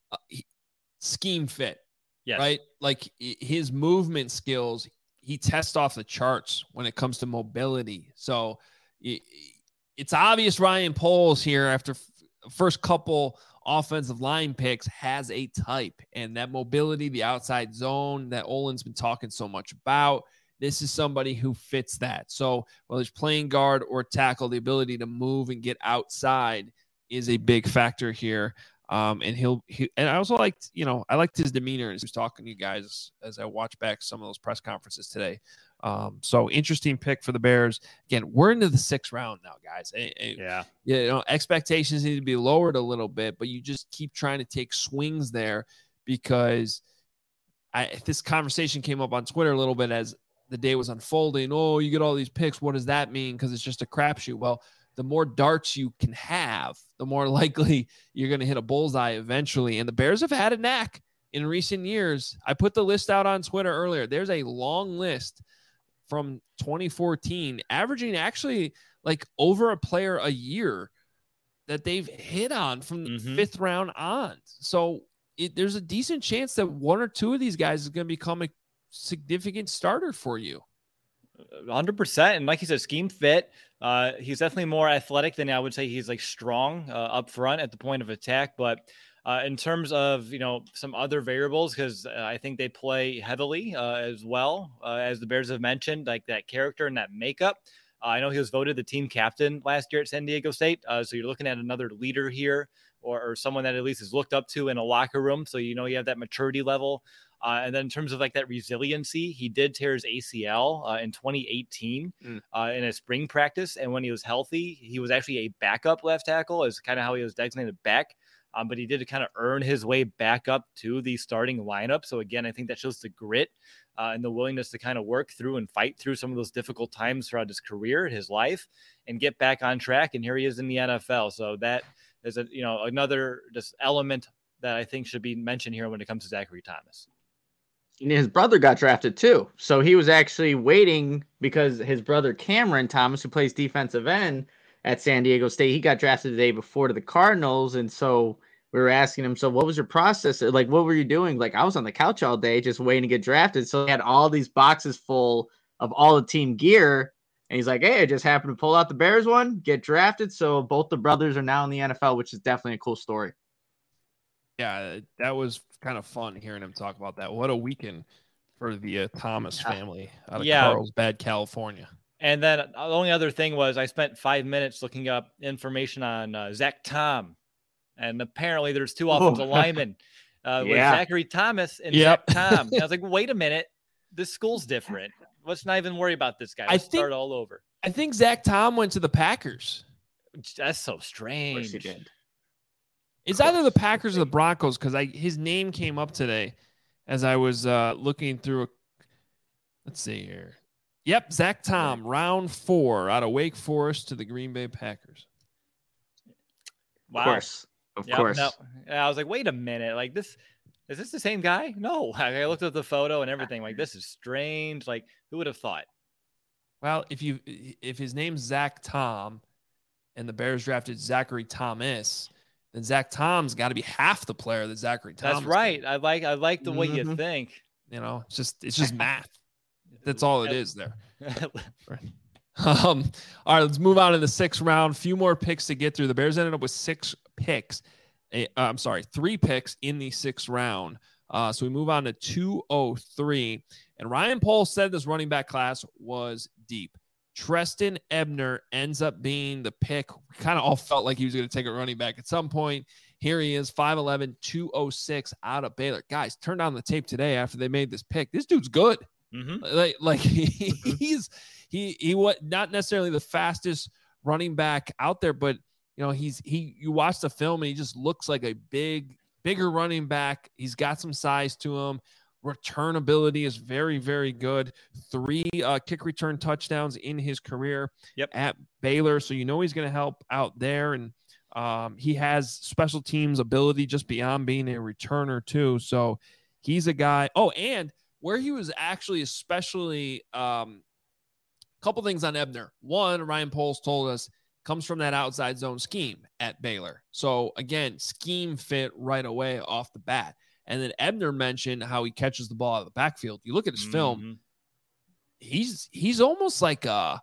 scheme fit, yes. Right? Like his movement skills, he tests off the charts when it comes to mobility. So it's obvious Ryan Poles here after first couple offensive line picks has a type, and that mobility, the outside zone that Olin's been talking so much about, this is somebody who fits that. So whether it's playing guard or tackle, the ability to move and get outside is a big factor here. And and I also liked his demeanor as he was talking to you guys as I watched back some of those press conferences today. So interesting pick for the Bears. Again, we're into the 6th round now, guys. Yeah. Expectations need to be lowered a little bit, but you just keep trying to take swings there because this conversation came up on Twitter a little bit as the day was unfolding. Oh, you get all these picks. What does that mean? Because it's just a crapshoot. Well, the more darts you can have, the more likely you're going to hit a bullseye eventually. And the Bears have had a knack in recent years. I put the list out on Twitter earlier. There's a long list from 2014, averaging actually like over a player a year that they've hit on from the 5th round on. So there's a decent chance that one or two of these guys is going to become a significant starter for you. 100%. And like you said, scheme fit. He's definitely more athletic than I would say he's like strong up front at the point of attack. But in terms of, some other variables, because I think they play heavily as well, as the Bears have mentioned, like that character and that makeup. I know he was voted the team captain last year at San Diego State. So you're looking at another leader here or someone that at least is looked up to in a locker room. So, you have that maturity level. And then in terms of like that resiliency, he did tear his ACL in 2018 in a spring practice. And when he was healthy, he was actually a backup left tackle, is kind of how he was designated back. But he did kind of earn his way back up to the starting lineup. So again, I think that shows the grit and the willingness to kind of work through and fight through some of those difficult times throughout his career, his life, and get back on track. And here he is in the NFL. So that is another just element that I think should be mentioned here when it comes to Zachary Thomas. His brother got drafted too. So he was actually waiting because his brother Cameron Thomas, who plays defensive end at San Diego State, he got drafted the day before to the Cardinals. And so we were asking him, so what was your process? Like, what were you doing? Like, I was on the couch all day just waiting to get drafted. So he had all these boxes full of all the team gear. And he's like, hey, I just happened to pull out the Bears one, get drafted. So both the brothers are now in the NFL, which is definitely a cool story. Yeah, that was kind of fun hearing him talk about that. What a weekend for the Thomas family out of Carlsbad, California. And then the only other thing was I spent 5 minutes looking up information on Zach Tom. And apparently there's 2 offensive linemen with Zachary Thomas and Zach Tom. And I was like, wait a minute. This school's different. Let's not even worry about this guy. Let's start all over. I think Zach Tom went to the Packers. That's so strange. Of course he did. It's either the Packers or the Broncos because his name came up today as I was looking through. Let's see here. Yep, Zach Tom, round 4 out of Wake Forest to the Green Bay Packers. Wow. Of course. No. I was like, wait a minute. Like this, is this the same guy? No. I looked at the photo and everything. Like, this is strange. Like, who would have thought? Well, if his name's Zach Tom and the Bears drafted Zachary Thomas, then Zach Tom's got to be half the player that Zachary Thomas. That's right. I like the way you think. It's just math. That's all it is there. All right, let's move on to the 6th round. Few more picks to get through. The Bears ended up with 3 picks in the 6th round. So we move on to 203. And Ryan Poles said this running back class was deep. Trestan Ebner ends up being the pick. We kind of all felt like he was going to take a running back at some point. Here he is, 5'11", 206 out of Baylor. Guys, turn on the tape today after they made this pick. This dude's good. He's was not necessarily the fastest running back out there, but you watch the film and he just looks like a bigger running back. He's got some size to him. Return ability is very, very good. 3 kick return touchdowns in his career at Baylor. So he's going to help out there. And he has special teams ability just beyond being a returner too. So he's a guy. Oh, and where he was actually especially couple things on Ebner. One, Ryan Poles told us, comes from that outside zone scheme at Baylor. So again, scheme fit right away off the bat. And then Ebner mentioned how he catches the ball out of the backfield. You look at his film, he's almost like a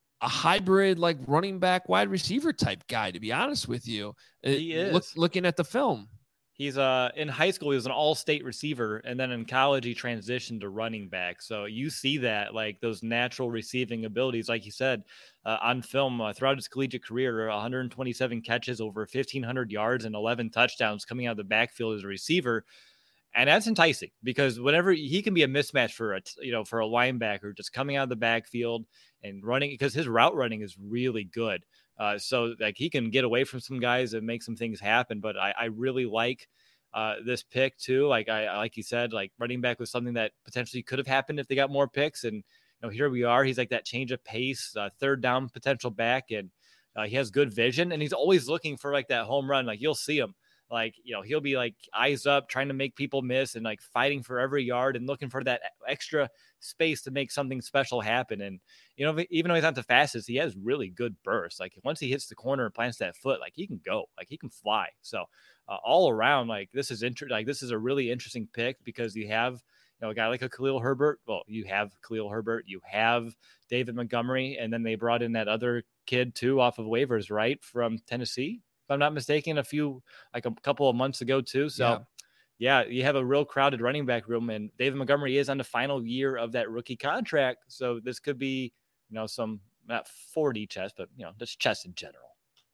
hybrid, like running back, wide receiver type guy, to be honest with you. He is. Looking at the film. He's in high school, he was an all-state receiver, and then in college, he transitioned to running back. So you see that, like those natural receiving abilities, like you said, on film throughout his collegiate career, 127 catches, over 1,500 yards, and 11 touchdowns coming out of the backfield as a receiver. And that's enticing because whenever he can be a mismatch for a linebacker just coming out of the backfield and running, because his route running is really good. So like he can get away from some guys and make some things happen. But I really like this pick too. Like you said, like running back was something that potentially could have happened if they got more picks. And here we are. He's like that change of pace, third down potential back, and he has good vision. And he's always looking for like that home run. Like you'll see him. Like, he'll be like eyes up, trying to make people miss and like fighting for every yard and looking for that extra space to make something special happen. And, even though he's not the fastest, he has really good bursts. Like once he hits the corner and plants that foot, like he can go, like he can fly. So all around, like this is this is a really interesting pick because you have, a guy like a Khalil Herbert. Well, you have Khalil Herbert, you have David Montgomery, and then they brought in that other kid too off of waivers, right? From Tennessee. I'm not mistaken, a couple of months ago too. So yeah, you have a real crowded running back room, and David Montgomery is on the final year of that rookie contract. So this could be, some not 40 chess, but just chess in general.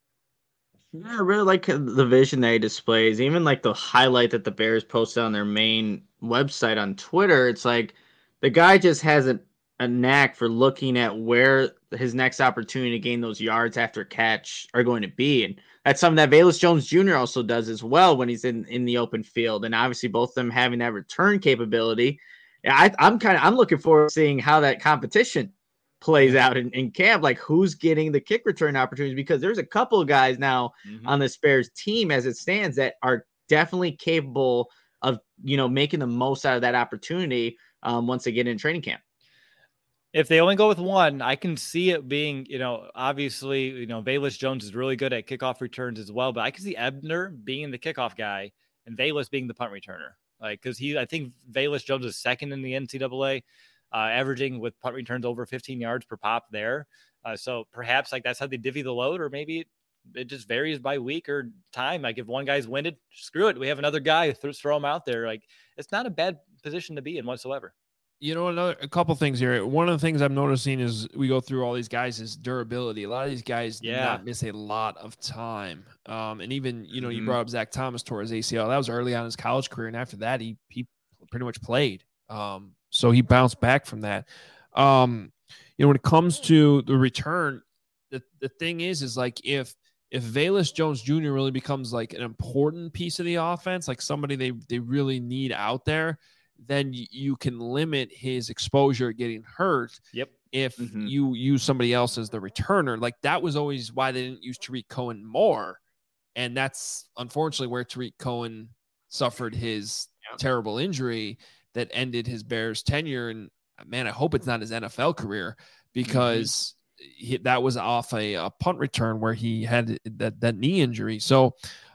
Yeah, I really like the vision that he displays. Even like the highlight that the Bears posted on their main website on Twitter. It's like the guy just has a knack for looking at where his next opportunity to gain those yards after catch are going to be. And that's something that Velus Jones Jr. also does as well when he's in the open field. And obviously both of them having that return capability. I'm looking forward to seeing how that competition plays out in camp, like who's getting the kick return opportunities, because there's a couple of guys now on the Bears team as it stands that are definitely capable of, making the most out of that opportunity once they get in training camp. If they only go with one, I can see it being, obviously, Velus Jones is really good at kickoff returns as well, but I can see Ebner being the kickoff guy and Velus being the punt returner. Like, because I think Velus Jones is second in the NCAA, averaging with punt returns over 15 yards per pop there. So perhaps like that's how they divvy the load, or maybe it just varies by week or time. Like if one guy's winded, screw it, we have another guy, throw him out there. Like it's not a bad position to be in whatsoever. A couple things here. One of the things I'm noticing is we go through all these guys is durability. A lot of these guys do not miss a lot of time. And even, you brought up Zach Thomas tore his ACL. That was early on in his college career. And after that, he pretty much played. So he bounced back from that. When it comes to the return, the thing is like if Velus Jones Jr. really becomes like an important piece of the offense, like somebody they really need out there, then you can limit his exposure getting hurt. Yep. If you use somebody else as the returner. Like that was always why they didn't use Tariq Cohen more. And that's unfortunately where Tariq Cohen suffered his terrible injury that ended his Bears tenure. And man, I hope it's not his NFL career, because that was off a punt return where he had that knee injury. So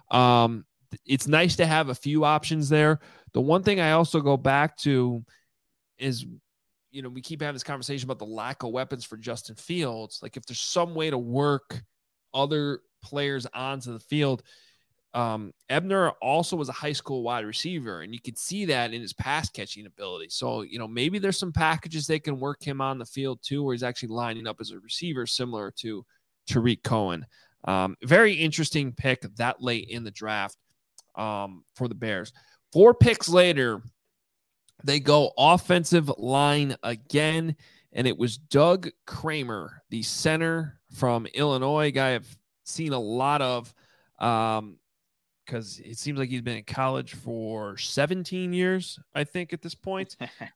it's nice to have a few options there. The one thing I also go back to is, we keep having this conversation about the lack of weapons for Justin Fields. Like if there's some way to work other players onto the field, Ebner also was a high school wide receiver, and you could see that in his pass catching ability. So, maybe there's some packages they can work him on the field too, where he's actually lining up as a receiver, similar to Tariq Cohen. Very interesting pick that late in the draft for the Bears. 4 picks later, they go offensive line again, and it was Doug Kramer, the center from Illinois, guy I've seen a lot of because it seems like he's been in college for 17 years, I think, at this point.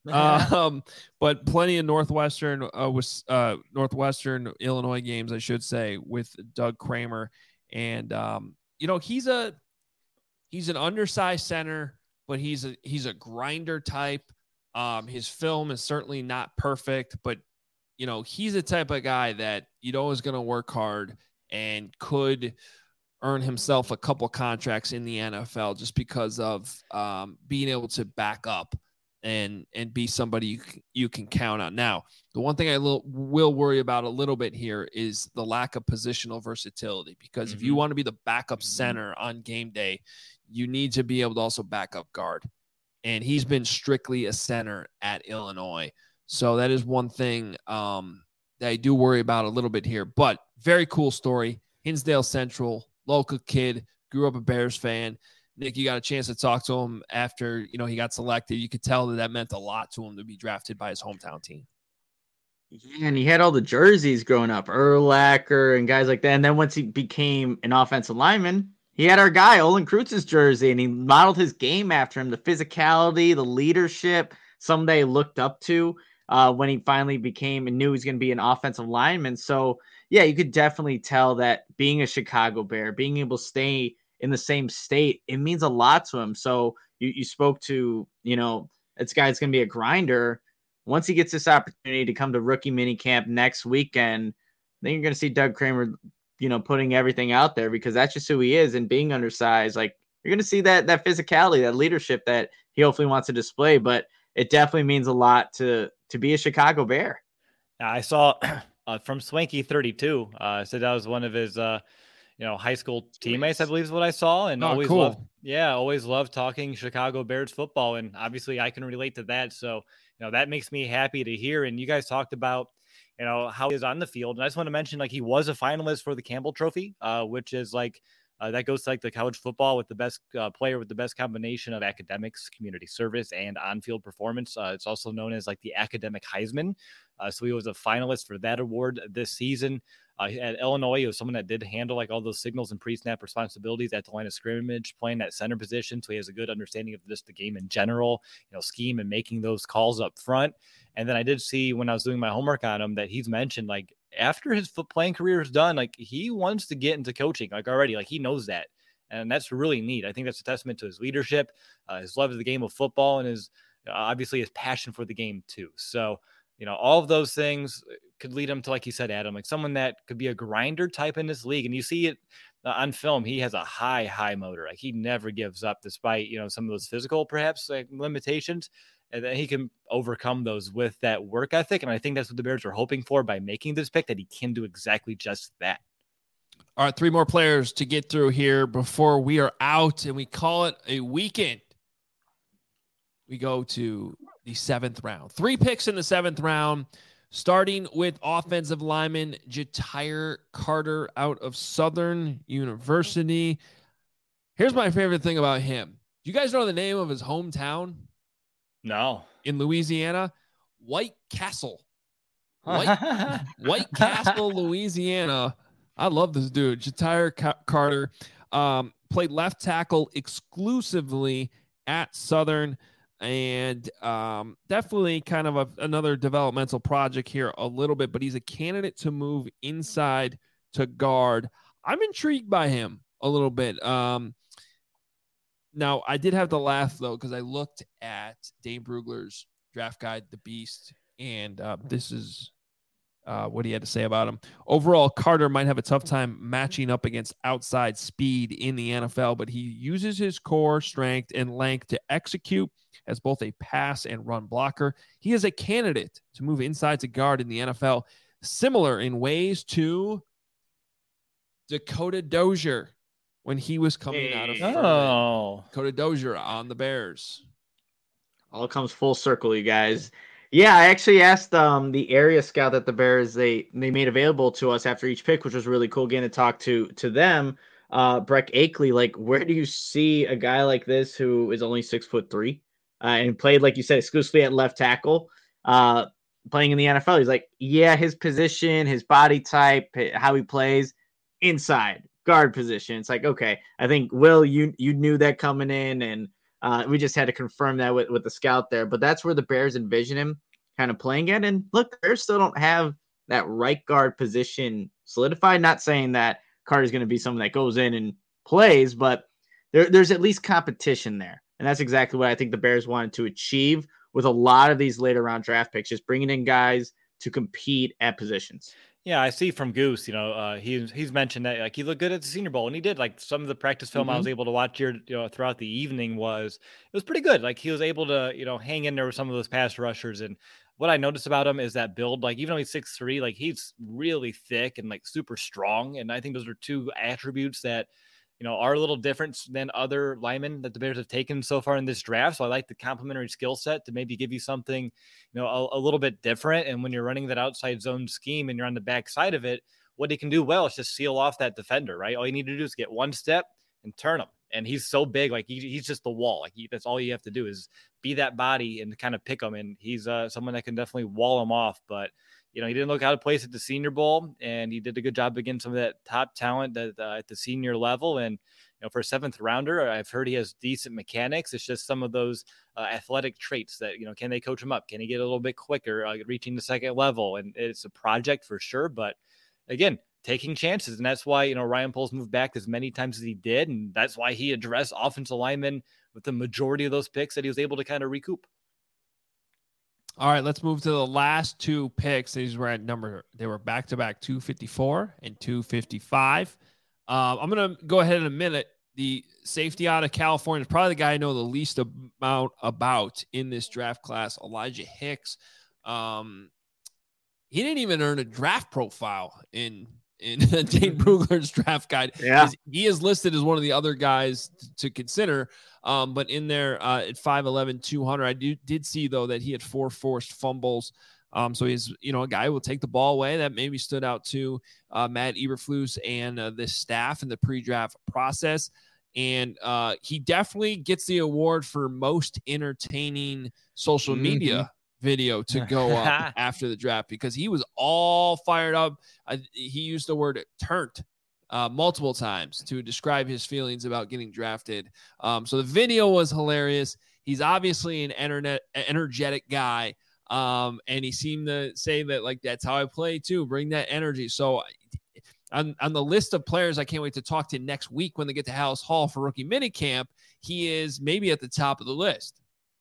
But plenty of Northwestern Illinois games, I should say, with Doug Kramer. And, he's an undersized center, but he's a grinder type. His film is certainly not perfect, but, he's the type of guy that is going to work hard and could earn himself a couple contracts in the NFL just because of being able to back up and be somebody you can count on. Now, the one thing I will worry about a little bit here is the lack of positional versatility, because if you want to be the backup center on game day, you need to be able to also back up guard. And he's been strictly a center at Illinois. So that is one thing that I do worry about a little bit here. But very cool story. Hinsdale Central, local kid, grew up a Bears fan. Nick, you got a chance to talk to him after, he got selected. You could tell that meant a lot to him to be drafted by his hometown team. Yeah, and he had all the jerseys growing up, Urlacher and guys like that. And then once he became an offensive lineman, he had our guy, Olin Kreutz's jersey, and he modeled his game after him, the physicality, the leadership, somebody looked up to when he finally became and knew he was going to be an offensive lineman. So, yeah, you could definitely tell that being a Chicago Bear, being able to stay in the same state, it means a lot to him. So you spoke to, this guy's going to be a grinder. Once he gets this opportunity to come to rookie minicamp next weekend, then you're going to see Doug Kramer, putting everything out there, because that's just who he is. And being undersized, like, you're going to see that physicality, that leadership that he hopefully wants to display. But it definitely means a lot to be a Chicago Bear. I saw from Swanky 32, said that was one of his, high school teammates, I believe is what I saw. And always loved talking Chicago Bears football. And obviously I can relate to that. So, that makes me happy to hear. And you guys talked about, how he is on the field. And I just want to mention, he was a finalist for the Campbell Trophy, which is that goes to the college football with the best player with the best combination of academics, community service, and on-field performance. It's also known as the academic Heisman. So he was a finalist for that award this season. At Illinois, he was someone that did handle all those signals and pre-snap responsibilities at the line of scrimmage, playing that center position. So he has a good understanding of just the game in general, scheme and making those calls up front. And then I did see when I was doing my homework on him that he's mentioned after his playing career is done, he wants to get into coaching already. He knows that. And that's really neat. I think that's a testament to his leadership, his love of the game of football, and his obviously his passion for the game too. So, all of those things could lead him to, like you said, Adam, someone that could be a grinder type in this league. And you see it on film. He has a high motor. He never gives up despite, some of those physical, perhaps limitations. And then he can overcome those with that work ethic. And I think that's what the Bears are hoping for by making this pick, that he can do exactly just that. All right, 3 more players to get through here before we are out, and we call it a weekend. We go to the 7th round. 3 picks in the 7th round, starting with offensive lineman Ja'Tyre Carter out of Southern University. Here's my favorite thing about him. Do you guys know the name of his hometown? No. In Louisiana? White Castle. White Castle, Louisiana. I love this dude. Ja'Tyre Carter played left tackle exclusively at Southern, and definitely kind of another developmental project here a little bit, but he's a candidate to move inside to guard. I'm intrigued by him a little bit. Now, I did have to laugh, though, because I looked at Dane Brugler's draft guide, The Beast, and this is what he had to say about him. Overall, Carter might have a tough time matching up against outside speed in the NFL, but he uses his core strength and length to execute as both a pass and run blocker. He is a candidate to move inside to guard in the NFL, similar in ways to Dakota Dozier. when he was coming out of Furman. Dakota Dozier on the Bears. All comes full circle, you guys. Yeah, I actually asked the area scout that the Bears they made available to us after each pick, which was really cool getting to talk to them. Breck Akeley, like, where do you see a guy like this who is only 6'3" and played, like you said, exclusively at left tackle, playing in the NFL? He's like, yeah, his position, his body type, how he plays, inside guard position. It's like, okay, I think Will, you knew that coming in, and we just had to confirm that with the scout there. But that's where the Bears envision him kind of playing at. And look, the Bears still don't have that right guard position solidified. Not saying that Carter's going to be someone that goes in and plays, but there's at least competition there. And that's exactly what I think the Bears wanted to achieve with a lot of these later round draft picks, just bringing in guys to compete at positions. Yeah, I see from Goose, he's mentioned that like he looked good at the Senior Bowl, and he did. Like some of the practice film I was able to watch here, throughout the evening it was pretty good. Like he was able to, hang in there with some of those pass rushers. And what I noticed about him is that build, like even though he's 6'3", like he's really thick and like super strong. And I think those are two attributes that, are a little different than other linemen that the Bears have taken so far in this draft. So I like the complementary skill set to maybe give you something, a little bit different. And when you're running that outside zone scheme and you're on the back side of it, what he can do well is just seal off that defender, right? All you need to do is get one step and turn him. And he's so big, like he's just the wall. Like that's all you have to do is be that body and kind of pick him. And he's someone that can definitely wall him off. But he didn't look out of place at the Senior Bowl, and he did a good job against some of that top talent at the senior level. And for a 7th rounder, I've heard he has decent mechanics. It's just some of those athletic traits that can they coach him up? Can he get a little bit quicker, reaching the second level? And it's a project for sure. But again, taking chances, and that's why Ryan Poles moved back as many times as he did, and that's why he addressed offensive linemen with the majority of those picks that he was able to kind of recoup. All right, let's move to the last two picks. These were they were back-to-back 254 and 255. I'm going to go ahead in a minute. The safety out of California is probably the guy I know the least amount about in this draft class, Elijah Hicks. He didn't even earn a draft profile in Dane Brugler's draft guide. Yeah. He is listed as one of the other guys to consider. But in there at 5'11", 200, I did see, though, that he had 4 forced fumbles. So he's, a guy who will take the ball away. That maybe stood out to Matt Eberflus and the staff in the pre-draft process. And he definitely gets the award for most entertaining social media video to go up after the draft, because he was all fired up. He used the word "turnt" multiple times to describe his feelings about getting drafted. So the video was hilarious. He's obviously an energetic guy. And he seemed to say that, like, that's how I play too. Bring that energy. So on the list of players I can't wait to talk to next week when they get to Hallis Hall for rookie minicamp, he is maybe at the top of the list.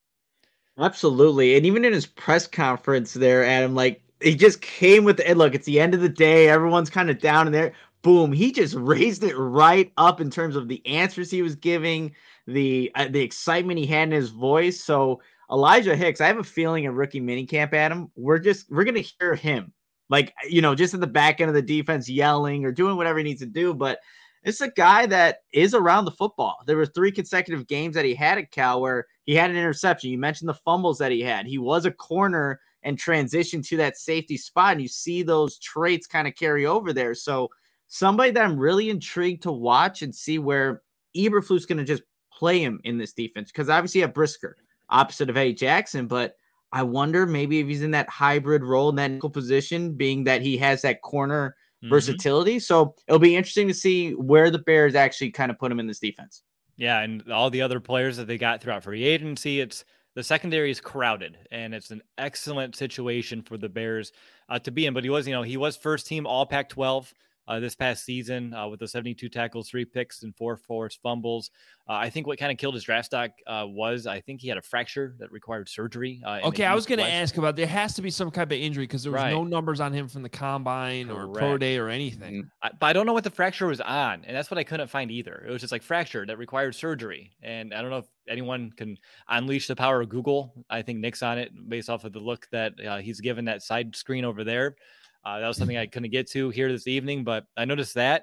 Absolutely. And even in his press conference there, Adam, like, he just came with and look, it's the end of the day. Everyone's kind of down in there. Boom. He just raised it right up in terms of the answers he was giving, the excitement he had in his voice. So Elijah Hicks, I have a feeling in rookie minicamp, Adam, we're going to hear him, like, just at the back end of the defense yelling or doing whatever he needs to do. But it's a guy that is around the football. There were 3 consecutive games that he had at Cal where he had an interception. You mentioned the fumbles that he had. He was a corner and transitioned to that safety spot, and you see those traits kind of carry over there. So somebody that I'm really intrigued to watch and see where Eberflus is going to just play him in this defense, because obviously you have Brisker opposite of Eddie Jackson, but I wonder maybe if he's in that hybrid role in that nickel position, being that he has that corner versatility. So it'll be interesting to see where the Bears actually kind of put him in this defense. Yeah, and all the other players that they got throughout free agency, the secondary is crowded, and it's an excellent situation for the Bears to be in. But he was first team All Pac-12 this past season with the 72 tackles, 3 picks, and 4 forced fumbles. I think what kind of killed his draft stock was, I think he had a fracture that required surgery. Okay, I was going to ask about, there has to be some type of injury, because there was no numbers on him from the combine or pro day or anything. But I don't know what the fracture was on, and that's what I couldn't find either. It was just like fracture that required surgery. And I don't know if anyone can unleash the power of Google. I think Nick's on it based off of the look that he's given that side screen over there. That was something I couldn't get to here this evening, but I noticed that.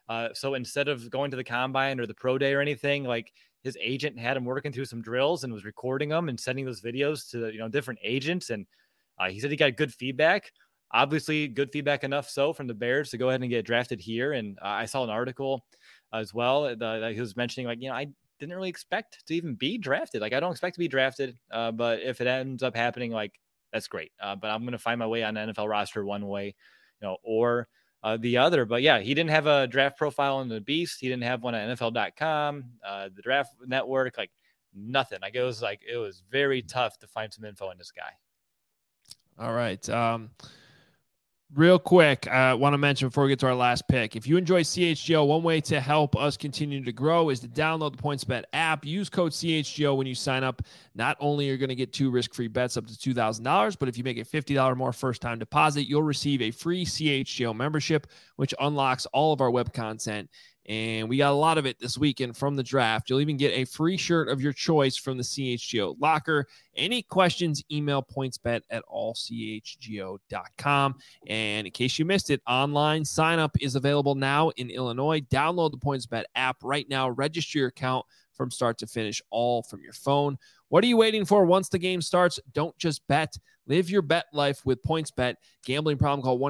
So instead of going to the combine or the pro day or anything, like his agent had him working through some drills and was recording them and sending those videos to, different agents. And he said he got good feedback, obviously good feedback enough so from the Bears to go ahead and get drafted here. And I saw an article as well that he was mentioning, like, I didn't really expect to even be drafted. Like, I don't expect to be drafted, but if it ends up happening, like, that's great. But I'm going to find my way on the NFL roster one way, or the other. But yeah, he didn't have a draft profile on the Beast. He didn't have one at NFL.com, the Draft Network, like nothing. Like, it was very tough to find some info on this guy. All right. Real quick, I want to mention before we get to our last pick, if you enjoy CHGO, one way to help us continue to grow is to download the PointsBet app. Use code CHGO when you sign up. Not only are you going to get 2 risk-free bets up to $2,000, but if you make a $50 more first-time deposit, you'll receive a free CHGO membership, which unlocks all of our web content. And we got a lot of it this weekend from the draft. You'll even get a free shirt of your choice from the CHGO locker. Any questions, email pointsbet@allchgo.com. And in case you missed it, online sign-up is available now in Illinois. Download the PointsBet app right now. Register your account from start to finish, all from your phone. What are you waiting for? Once the game starts, don't just bet. Live your bet life with PointsBet. Gambling problem, call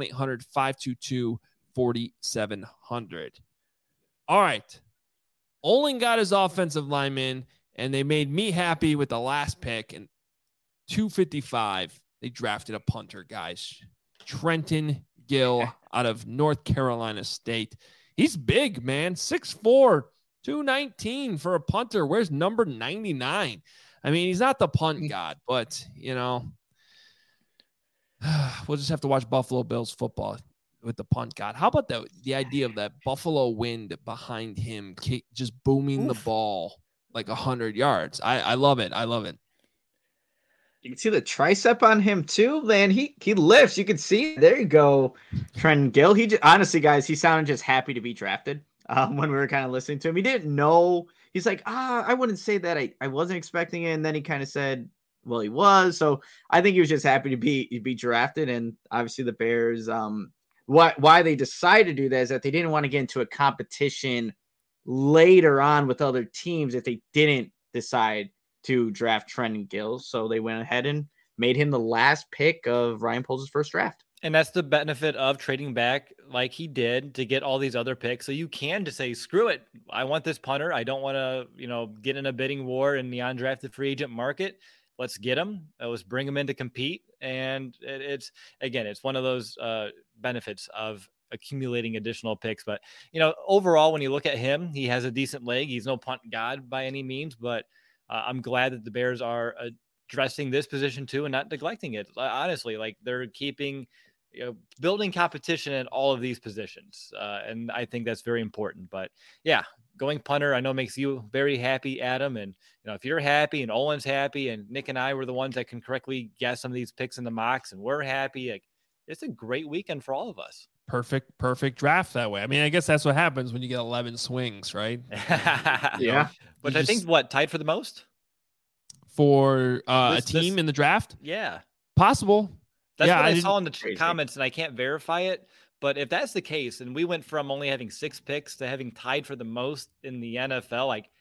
1-800-522-4700. All right. Olin got his offensive lineman, and they made me happy with the last pick. And 255, they drafted a punter, guys. Trenton Gill out of North Carolina State. He's big, man. 6'4", 219 for a punter. Where's number 99? I mean, he's not the punt god, but, we'll just have to watch Buffalo Bills football with the punt god. How about the idea of that Buffalo wind behind him just booming the ball like 100 yards? I love it. I love it. You can see the tricep on him too, man. He lifts. You can see. There you go, Trenton Gill. Honestly, guys, he sounded just happy to be drafted. When we were kind of listening to him, he didn't know. He's like, I wouldn't say that. I wasn't expecting it. And then he kind of said, well, he was. So I think he was just happy to be drafted. And obviously the Bears, why they decided to do that is that they didn't want to get into a competition later on with other teams if they didn't decide to draft Trenton Gill. So they went ahead and made him the last pick of Ryan Poles' first draft. And that's the benefit of trading back like he did to get all these other picks. So you can just say, screw it. I want this punter. I don't want to, get in a bidding war in the undrafted free agent market. Let's get him. Let's bring him in to compete. And it's one of those benefits of accumulating additional picks. But, overall, when you look at him, he has a decent leg. He's no punt god by any means, but I'm glad that the Bears are addressing this position too and not neglecting it. Honestly, like they're keeping, building competition in all of these positions. And I think that's very important. But yeah, going punter, I know makes you very happy, Adam. And, if you're happy and Olin's happy and Nick and I were the ones that can correctly guess some of these picks in the mocks and we're happy, like, it's a great weekend for all of us. Perfect draft that way. I mean, I guess that's what happens when you get 11 swings, right? Yeah. But I think tied for the most? For a team in the draft? Yeah. Possible. That's what I saw in the comments, and I can't verify it. But if that's the case, and we went from only having 6 picks to having tied for the most in the NFL, like,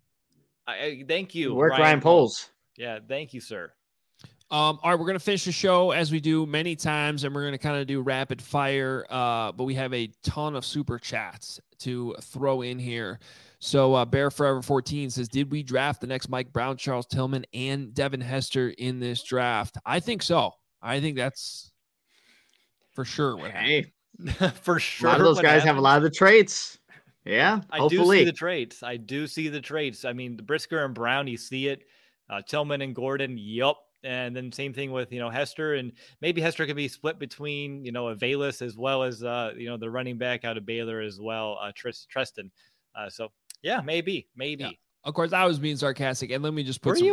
I thank you. Ryan Poles. Yeah, thank you, sir. All right, we're going to finish the show as we do many times, and we're going to kind of do rapid fire, but we have a ton of super chats to throw in here. So Bear Forever 14 says, did we draft the next Mike Brown, Charles Tillman, and Devin Hester in this draft? I think so. I think that's for sure what happened. For sure. A lot of those guys have a lot of the traits. Yeah, hopefully. I do see the traits. I mean, the Brisker and Brown, you see it. Tillman and Gordon, yep. And then same thing with, Hester, and maybe Hester could be split between, Avalis as well as, the running back out of Baylor as well, Treston. So yeah, maybe. Yeah. Of course, I was being sarcastic, and let me just be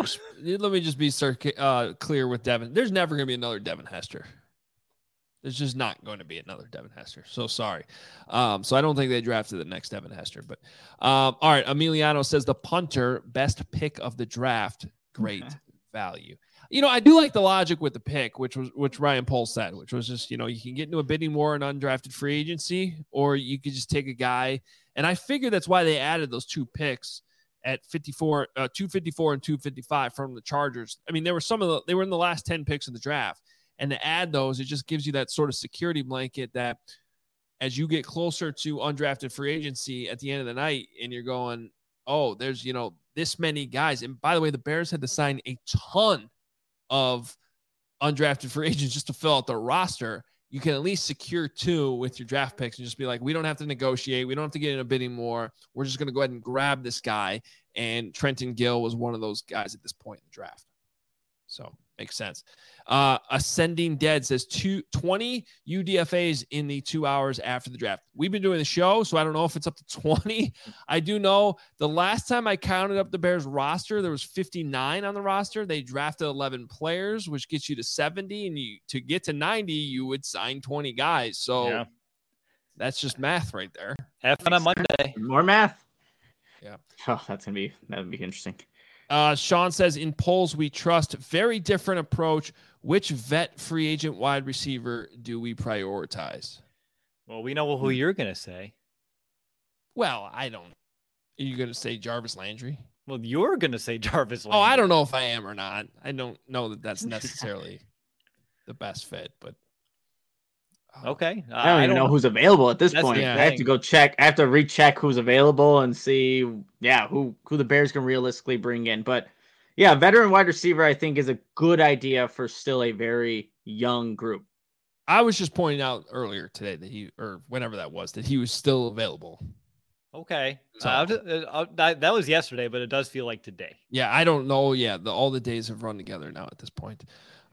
clear with Devin. There's never going to be another Devin Hester. There's just not going to be another Devin Hester. So sorry. So I don't think they drafted the next Devin Hester. But all right, Emiliano says the punter, best pick of the draft. Great value. I do like the logic with the pick, which Ryan Poles said, which was just, you can get into a bidding war in undrafted free agency, or you could just take a guy. And I figure that's why they added those 2 picks at 254 and 255 from the Chargers. I mean, they were in the last 10 picks of the draft, and to add those, it just gives you that sort of security blanket that as you get closer to undrafted free agency at the end of the night, and you're going, oh, there's, this many guys. And by the way, the Bears had to sign a ton of undrafted free agents just to fill out their roster. You can at least secure 2 with your draft picks and just be like, we don't have to negotiate. We don't have to get in a bidding war. We're just going to go ahead and grab this guy. And Trenton Gill was one of those guys at this point in the draft. So makes sense. Ascending Dead says 20 UDFAs in the 2 hours after the draft. We've been doing the show, so I don't know if it's up to 20. I do know the last time I counted up the Bears roster, there was 59 on the roster. They drafted 11 players, which gets you to 70. And to get to 90, you would sign 20 guys. So that's just math right there. Have fun on Monday. More math. Yeah. Oh, that would be interesting. Sean says, in polls we trust, very different approach. Which vet free agent wide receiver do we prioritize? Well, we know who you're going to say. Well, I don't. Are you going to say Jarvis Landry? Well, you're going to say Jarvis Landry. Oh, I don't know if I am or not. I don't know that that's necessarily the best fit, but. Okay. I don't even know who's available at this point. I have to go check. I have to recheck who's available and see, who the Bears can realistically bring in. But yeah, veteran wide receiver, I think, is a good idea for still a very young group. I was just pointing out earlier today or whenever that was, that he was still available. Okay. So, that was yesterday, but it does feel like today. Yeah, I don't know. Yeah, all the days have run together now at this point.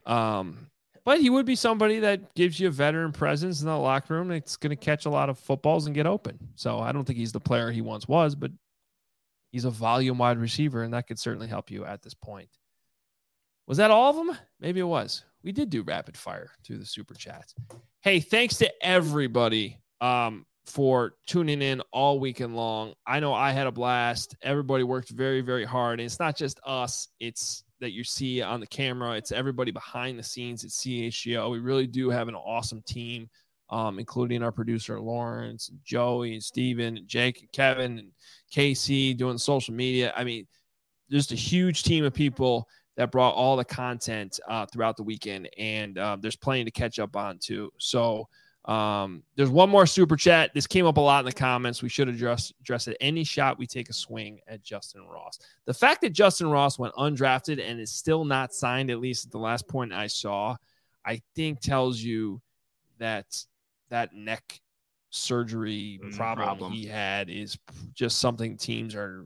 But he would be somebody that gives you a veteran presence in the locker room. It's going to catch a lot of footballs and get open. So I don't think he's the player he once was, but he's a volume wide receiver, and that could certainly help you at this point. Was that all of them? Maybe it was. We did do rapid fire through the super chats. Hey, thanks to everybody for tuning in all weekend long. I know I had a blast. Everybody worked very, very hard. And it's not just us. It's that you see on the camera. It's everybody behind the scenes at CHGO. We really do have an awesome team, including our producer, Lawrence, and Joey, and Steven, and Jake, and Kevin, and Casey doing social media. I mean, just a huge team of people that brought all the content throughout the weekend, and there's plenty to catch up on too. So there's one more super chat. This came up a lot in the comments. We should address it. Any shot we take a swing at Justin Ross. The fact that Justin Ross went undrafted and is still not signed, at least at the last point I saw, I think tells you that that neck surgery problem he had is just something teams are,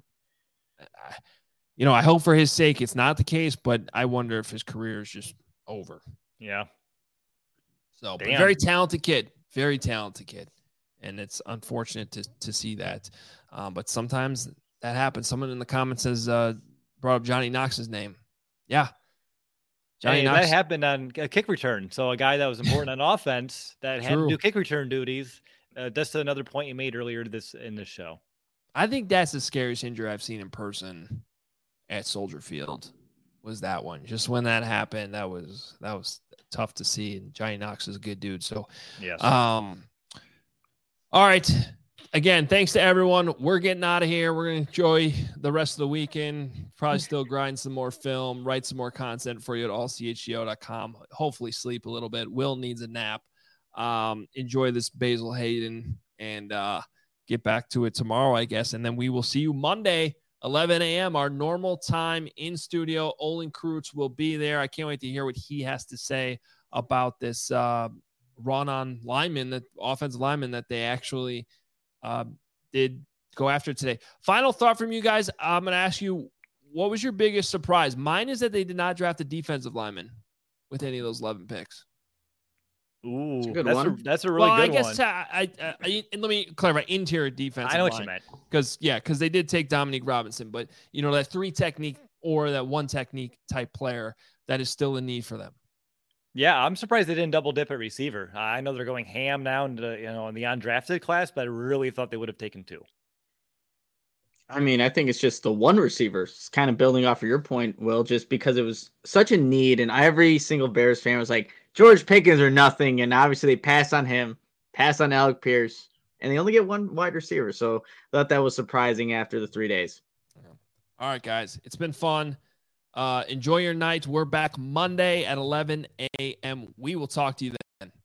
I hope for his sake it's not the case, but I wonder if his career is just over. Yeah. So, but very talented kid, and it's unfortunate to see that. But sometimes that happens. Someone in the comments has brought up Johnny Knox's name. Yeah, Johnny Knox. That happened on a kick return. So a guy that was important on offense that had to do kick return duties. That's another point you made earlier in this show. I think that's the scariest injury I've seen in person at Soldier Field. Was that one? Just when that happened, that was tough to see. And Johnny Knox is a good dude. So, yes. All right. Again, thanks to everyone. We're getting out of here. We're going to enjoy the rest of the weekend. Probably still grind some more film, write some more content for you at allchgo.com. Hopefully sleep a little bit. Will needs a nap. Enjoy this Basil Hayden and get back to it tomorrow, I guess. And then we will see you Monday, 11 a.m., our normal time in studio. Olin Kreutz will be there. I can't wait to hear what he has to say about this run on lineman, that offensive lineman that they actually did go after today. Final thought from you guys. I'm going to ask you, what was your biggest surprise? Mine is that they did not draft a defensive lineman with any of those 11 picks. Ooh, that's a really good one. I guess and let me clarify, interior defensive I know line. what you meant. Because they did take Dominique Robinson, but that 3 technique or that 1 technique type player, that is still a need for them. Yeah, I'm surprised they didn't double dip at receiver. I know they're going ham now in the undrafted class, but I really thought they would have taken 2. I mean, I think it's just the one receiver. It's kind of building off of your point, Will, just because it was such a need, and every single Bears fan was like, George Pickens or nothing, and obviously they pass on him, pass on Alec Pierce, and they only get one wide receiver. So I thought that was surprising after the 3 days. All right, guys, it's been fun. Enjoy your night. We're back Monday at 11 a.m. We will talk to you then.